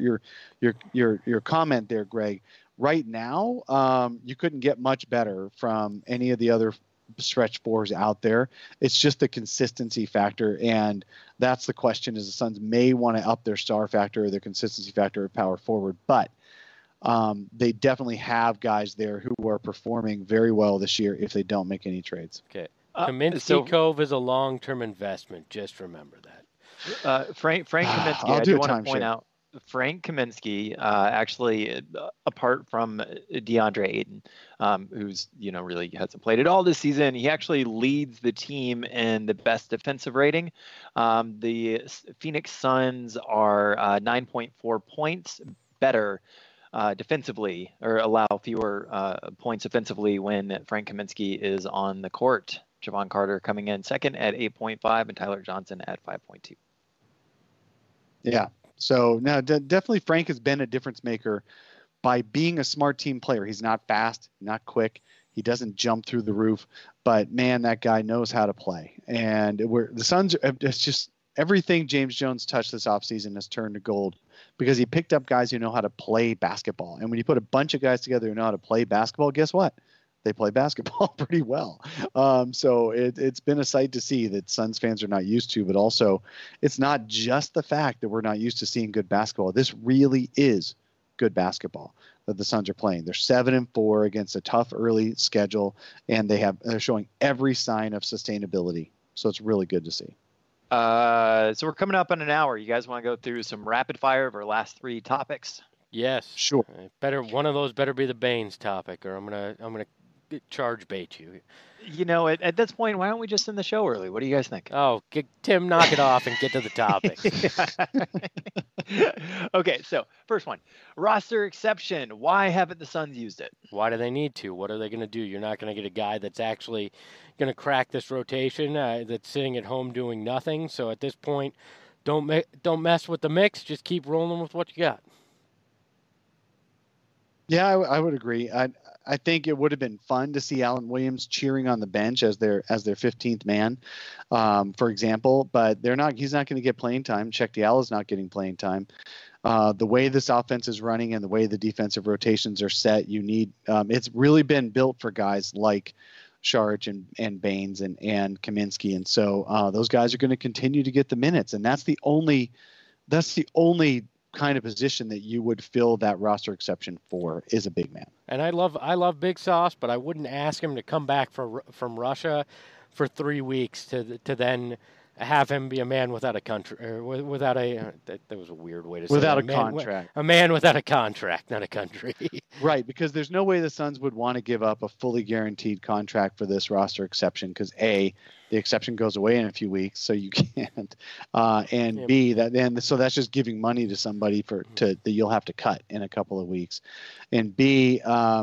your comment there, Greg, right now, you couldn't get much better from any of the other stretch fours out there. It's just the consistency factor, and that's the question: is the Suns may want to up their star factor or their consistency factor at power forward. But they definitely have guys there who are performing very well this year if they don't make any trades. Okay. Kaminsky so- Cove is a long-term investment. Just remember that. Frank Kaminsky, I'll I do do a want to timeshare. point out, Frank Kaminsky, actually, apart from DeAndre Ayton, who's really hasn't played at all this season, he actually leads the team in the best defensive rating. The Phoenix Suns are 9.4 points better defensively, or allow fewer points offensively when Frank Kaminsky is on the court. Javon Carter coming in second at 8.5, and Tyler Johnson at 5.2. Yeah. So no, definitely Frank has been a difference maker by being a smart team player. He's not fast, not quick. He doesn't jump through the roof, but man, that guy knows how to play. And the Suns, it's just everything James Jones touched this offseason has turned to gold because he picked up guys who know how to play basketball. And when you put a bunch of guys together who know how to play basketball, guess what? They play basketball pretty well. So it's been a sight to see that Suns fans are not used to, but also it's not just the fact that we're not used to seeing good basketball. This really is good basketball that the Suns are playing. They're 7-4 against a tough early schedule, and they're showing every sign of sustainability. So it's really good to see. So we're coming up on an hour. You guys want to go through some rapid fire of our last three topics? Yes. Sure. One of those better be the Baines topic, or I'm gonna charge bait you. At this point, why don't we just end the show early? What do you guys think? Oh, Tim, knock it off and get to the topic. Okay, so first one, roster exception. Why haven't the Suns used it? Why do they need to? What are they going to do? You're not going to get a guy that's actually going to crack this rotation that's sitting at home doing nothing. So at this point, don't mess with the mix. Just keep rolling with what you got. Yeah, I would agree. I think it would have been fun to see Alan Williams cheering on the bench as their 15th man, for example. But he's not going to get playing time. Cheick Diallo's not getting playing time. The way this offense is running and the way the defensive rotations are set, you need. It's really been built for guys like Saric and Baines and Kaminsky, and so those guys are going to continue to get the minutes, and that's the only kind of position that you would fill that roster exception for is a big man. And I love Big Sauce, but I wouldn't ask him to come back from Russia for 3 weeks to then have him be a man without a country, or without a that was a weird way to say without it. a contract. A man without a contract, not a country. Right, because there's no way the Suns would want to give up a fully guaranteed contract for this roster exception because A, the exception goes away in a few weeks, so you can't, and Yep. B, so that's just giving money to somebody that you'll have to cut in a couple of weeks, and B,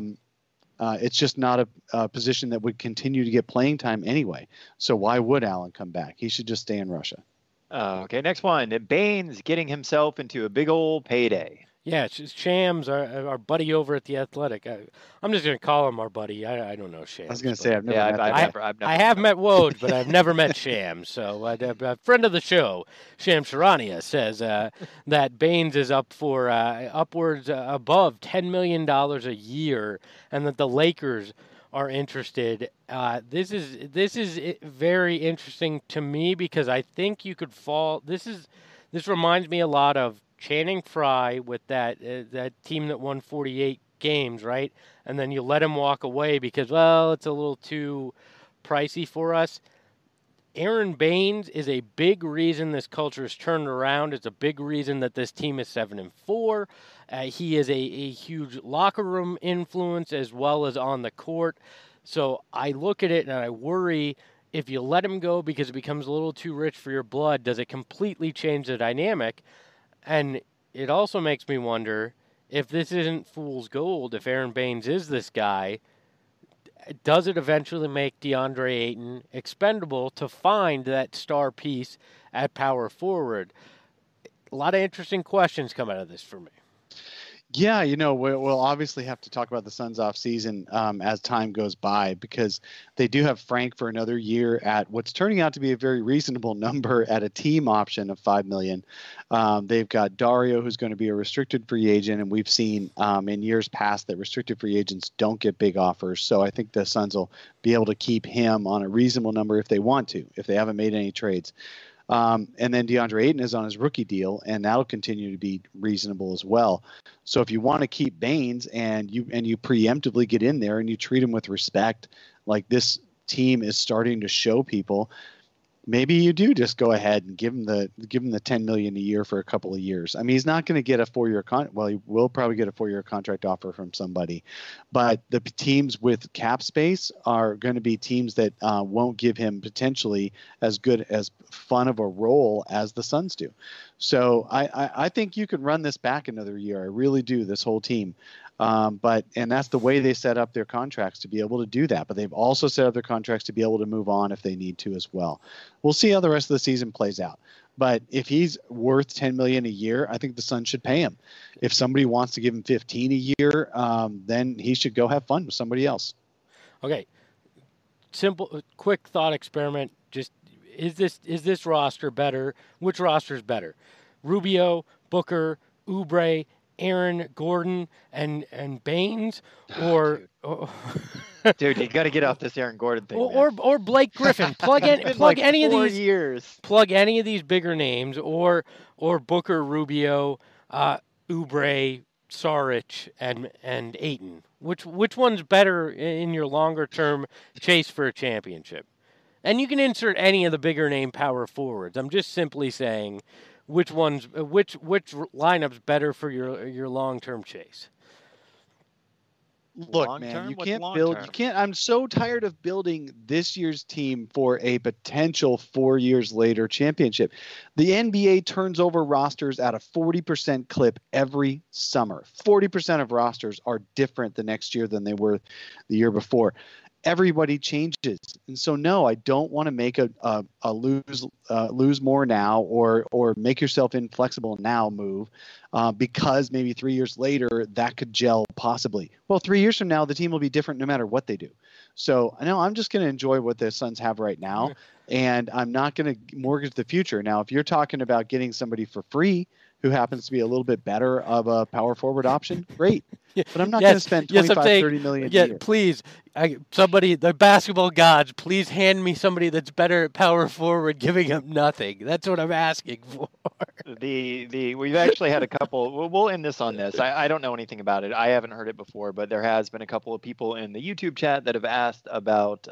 it's just not a position that would continue to get playing time anyway. So why would Allen come back? He should just stay in Russia. Okay, next one. Baines getting himself into a big old payday. Yeah, it's Shams, our buddy over at The Athletic. I'm just going to call him our buddy. I don't know Shams. I was going to say, I've never met that guy. I've never I have met Woj, but I've never met Shams. So a friend of the show, Shams Charania, says that Baines is up for upwards above $10 million a year, and that the Lakers are interested. This is very interesting to me because I think you could fall. This reminds me a lot of Channing Frye with that team that won 48 games, right? And then you let him walk away because, well, it's a little too pricey for us. Aaron Baines is a big reason this culture has turned around. It's a big reason that this team is 7-4. He is a huge locker room influence as well as on the court. So I look at it and I worry if you let him go because it becomes a little too rich for your blood, does it completely change the dynamic? And it also makes me wonder if this isn't fool's gold, if Aaron Baines is this guy, does it eventually make DeAndre Ayton expendable to find that star piece at power forward? A lot of interesting questions come out of this for me. Yeah, we'll obviously have to talk about the Suns off season as time goes by because they do have Frank for another year at what's turning out to be a very reasonable number at a team option of $5 million. They've got Dario, who's going to be a restricted free agent, and we've seen in years past that restricted free agents don't get big offers. So I think the Suns will be able to keep him on a reasonable number if they want to, if they haven't made any trades. And then DeAndre Ayton is on his rookie deal, and that'll continue to be reasonable as well. So if you want to keep Baines and you preemptively get in there and you treat him with respect, like this team is starting to show people, maybe you do just go ahead and give him the $10 million a year for a couple of years. I mean, he's not going to get a 4-year well, he will probably get a 4-year contract offer from somebody, but the teams with cap space are going to be teams that won't give him potentially as good as fun of a role as the Suns do. So I think you could run this back another year. I really do, this whole team. And that's the way they set up their contracts, to be able to do that. But they've also set up their contracts to be able to move on if they need to as well. We'll see how the rest of the season plays out. But if he's worth $10 million a year, I think the Suns should pay him. If somebody wants to give him $15 a year, then he should go have fun with somebody else. Okay. Simple, quick thought experiment. Just is this roster better? Which roster is better? Rubio, Booker, Oubre, Aaron Gordon, and Baines, or dude, you got to get off this Aaron Gordon thing. Or Blake Griffin. Plug any of these years. Plug any of these bigger names, or Booker, Rubio, Oubre, Saric, and Ayton. Which one's better in your longer term chase for a championship? And you can insert any of the bigger name power forwards. I'm just simply saying, which lineup's better for your long-term chase? Look, long man, term? you What's can't long build. term? You can't. I'm so tired of building this year's team for a potential 4 years later championship. The NBA turns over rosters at a 40% clip every summer. 40% of rosters are different the next year than they were the year before. Everybody changes, and so no, I don't want to make a lose more now or make yourself inflexible now move, because maybe 3 years later that could gel possibly. Well, 3 years from now the team will be different no matter what they do. So I know I'm just going to enjoy what the Suns have right now, and I'm not going to mortgage the future. Now, if you're talking about getting somebody for free who happens to be a little bit better of a power forward option, great. But I'm not going to spend $30 million a year. Please, the basketball gods, please hand me somebody that's better at power forward, giving up nothing. That's what I'm asking for. We've actually had a couple. We'll end this on this. I don't know anything about it. I haven't heard it before, but there has been a couple of people in the YouTube chat that have asked about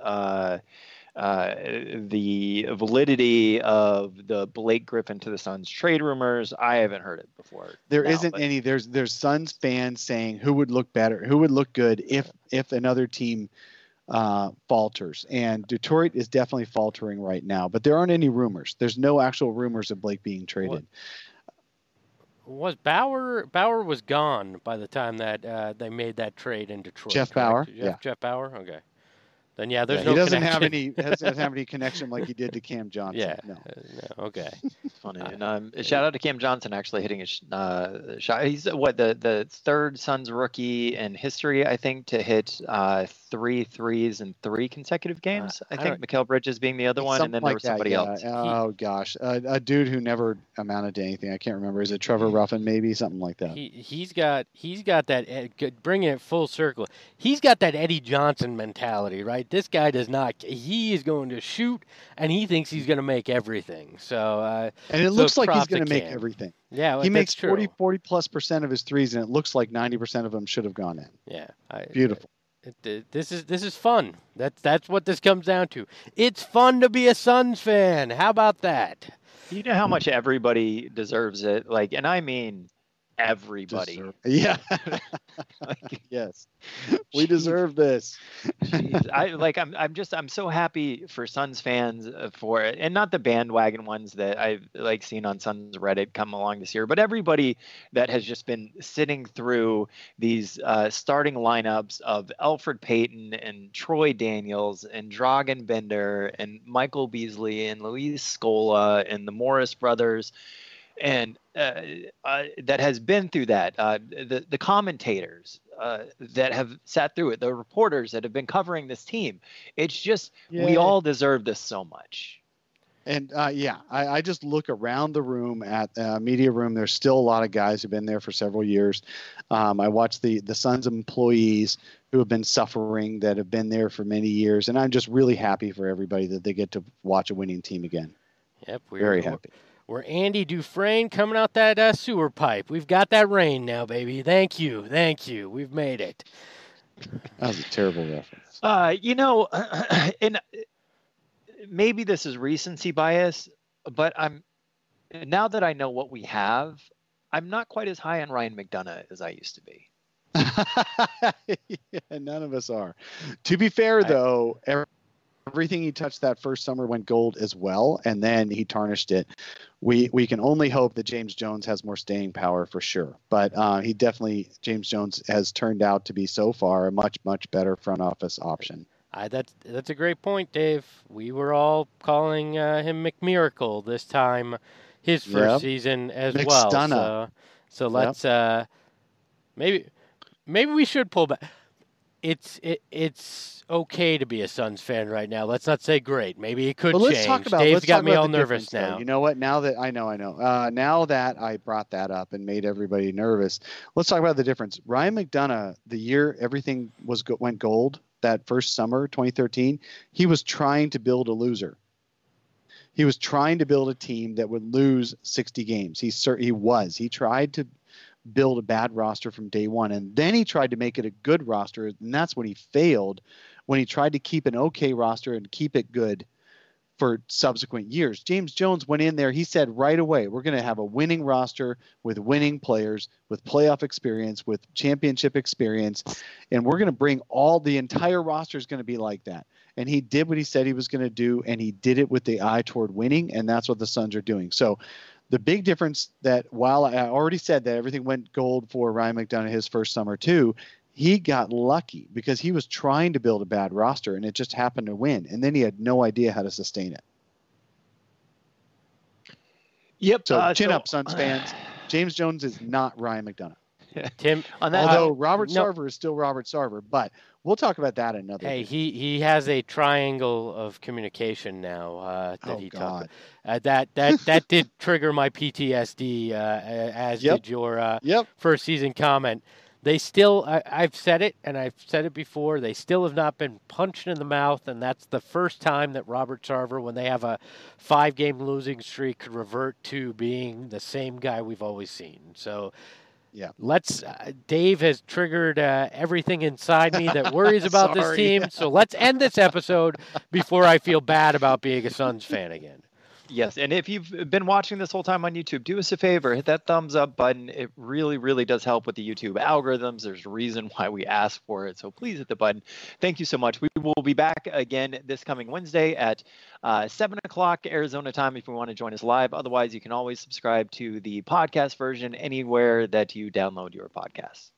the validity of the Blake Griffin to the Suns trade rumors. I haven't heard it before. There isn't any. There's Suns fans saying who would look better, who would look good if another team falters. And Detroit is definitely faltering right now, but there aren't any rumors. There's no actual rumors of Blake being traded. Was Bauer was gone by the time that they made that trade in Detroit? Jeff correct? Bauer? Jeff Bauer? Okay. Then there's no. He doesn't connection. have any connection like he did to Cam Johnson. Yeah. No. Okay. Funny. And shout out to Cam Johnson actually hitting a shot. He's the third Suns rookie in history, I think, to hit 3 threes in 3 consecutive games. I think Mikal Bridges being the other one, and then there was somebody else. Oh gosh, a dude who never amounted to anything. I can't remember. Is it Trevor Ruffin? Maybe something like that. He's got that. Bringing it full circle. He's got that Eddie Johnson mentality, right? This guy does not. He is going to shoot, and he thinks he's going to make everything. So, and it looks like he's going to make everything. Yeah, he makes 40+% of his threes, and it looks like 90% of them should have gone in. Yeah, beautiful. This is fun. That's what this comes down to. It's fun to be a Suns fan. How about that? You know how much everybody deserves it, and I mean everybody. Yeah. Yes. We deserve this. Jeez. I'm so happy for Suns fans for it, and not the bandwagon ones that I've seen on Suns Reddit come along this year, but everybody that has just been sitting through these starting lineups of Elfrid Payton and Troy Daniels and Dragan Bender and Michael Beasley and Luis Scola and the Morris brothers. And that has been through that, the commentators that have sat through it, the reporters that have been covering this team. It's just, we all deserve this so much. And I just look around the room at media room. There's still a lot of guys who've been there for several years. I watch the Suns employees who have been suffering, that have been there for many years. And I'm just really happy for everybody that they get to watch a winning team again. Yep, Very happy. We're Andy Dufresne coming out that sewer pipe. We've got that rain now, baby. Thank you. We've made it. That was a terrible reference. And maybe this is recency bias, but now that I know what we have, I'm not quite as high on Ryan McDonough as I used to be. Yeah, none of us are. To be fair, though, everything he touched that first summer went gold as well, and then he tarnished it. We can only hope that James Jones has more staying power for sure. But James Jones has turned out to be so far a much, much better front office option. That's a great point, Dave. We were all calling him McMiracle this time, his first season as well. So let's maybe we should pull back. It's okay to be a Suns fan right now. Let's not say great. Maybe it could change. Dave's got me all nervous now. You know what? Now that I know. Now that I brought that up and made everybody nervous, let's talk about the difference. Ryan McDonough, the year everything went gold, that first summer, 2013, he was trying to build a loser. He was trying to build a team that would lose 60 games. He tried to build a bad roster from day one, and then he tried to make it a good roster, and that's when he failed, when he tried to keep an okay roster and keep it good for subsequent years. James Jones went in there, he said right away, we're going to have a winning roster with winning players, with playoff experience, with championship experience, and we're going to bring the entire roster is going to be like that. And he did what he said he was going to do, and he did it with the eye toward winning, and that's what the Suns are doing. So the big difference that while I already said that everything went gold for Ryan McDonough his first summer too, he got lucky because he was trying to build a bad roster and it just happened to win. And then he had no idea how to sustain it. Yep. So chin up, Suns fans. James Jones is not Ryan McDonough. Tim, although Robert Sarver is still Robert Sarver, but we'll talk about that another day. He has a triangle of communication now that talked about. That did trigger my PTSD, as did your first season comment. They still, I've said it, and I've said it before, they still have not been punched in the mouth, and that's the first time that Robert Sarver, when they have a 5-game losing streak, could revert to being the same guy we've always seen. So yeah, Dave has triggered everything inside me that worries about this team. So let's end this episode before I feel bad about being a Suns fan again. Yes, and if you've been watching this whole time on YouTube, do us a favor, hit that thumbs up button. It really, really does help with the YouTube algorithms. There's a reason why we ask for it, so please hit the button. Thank you so much. We will be back again this coming Wednesday at 7 o'clock Arizona time if you want to join us live. Otherwise, you can always subscribe to the podcast version anywhere that you download your podcasts.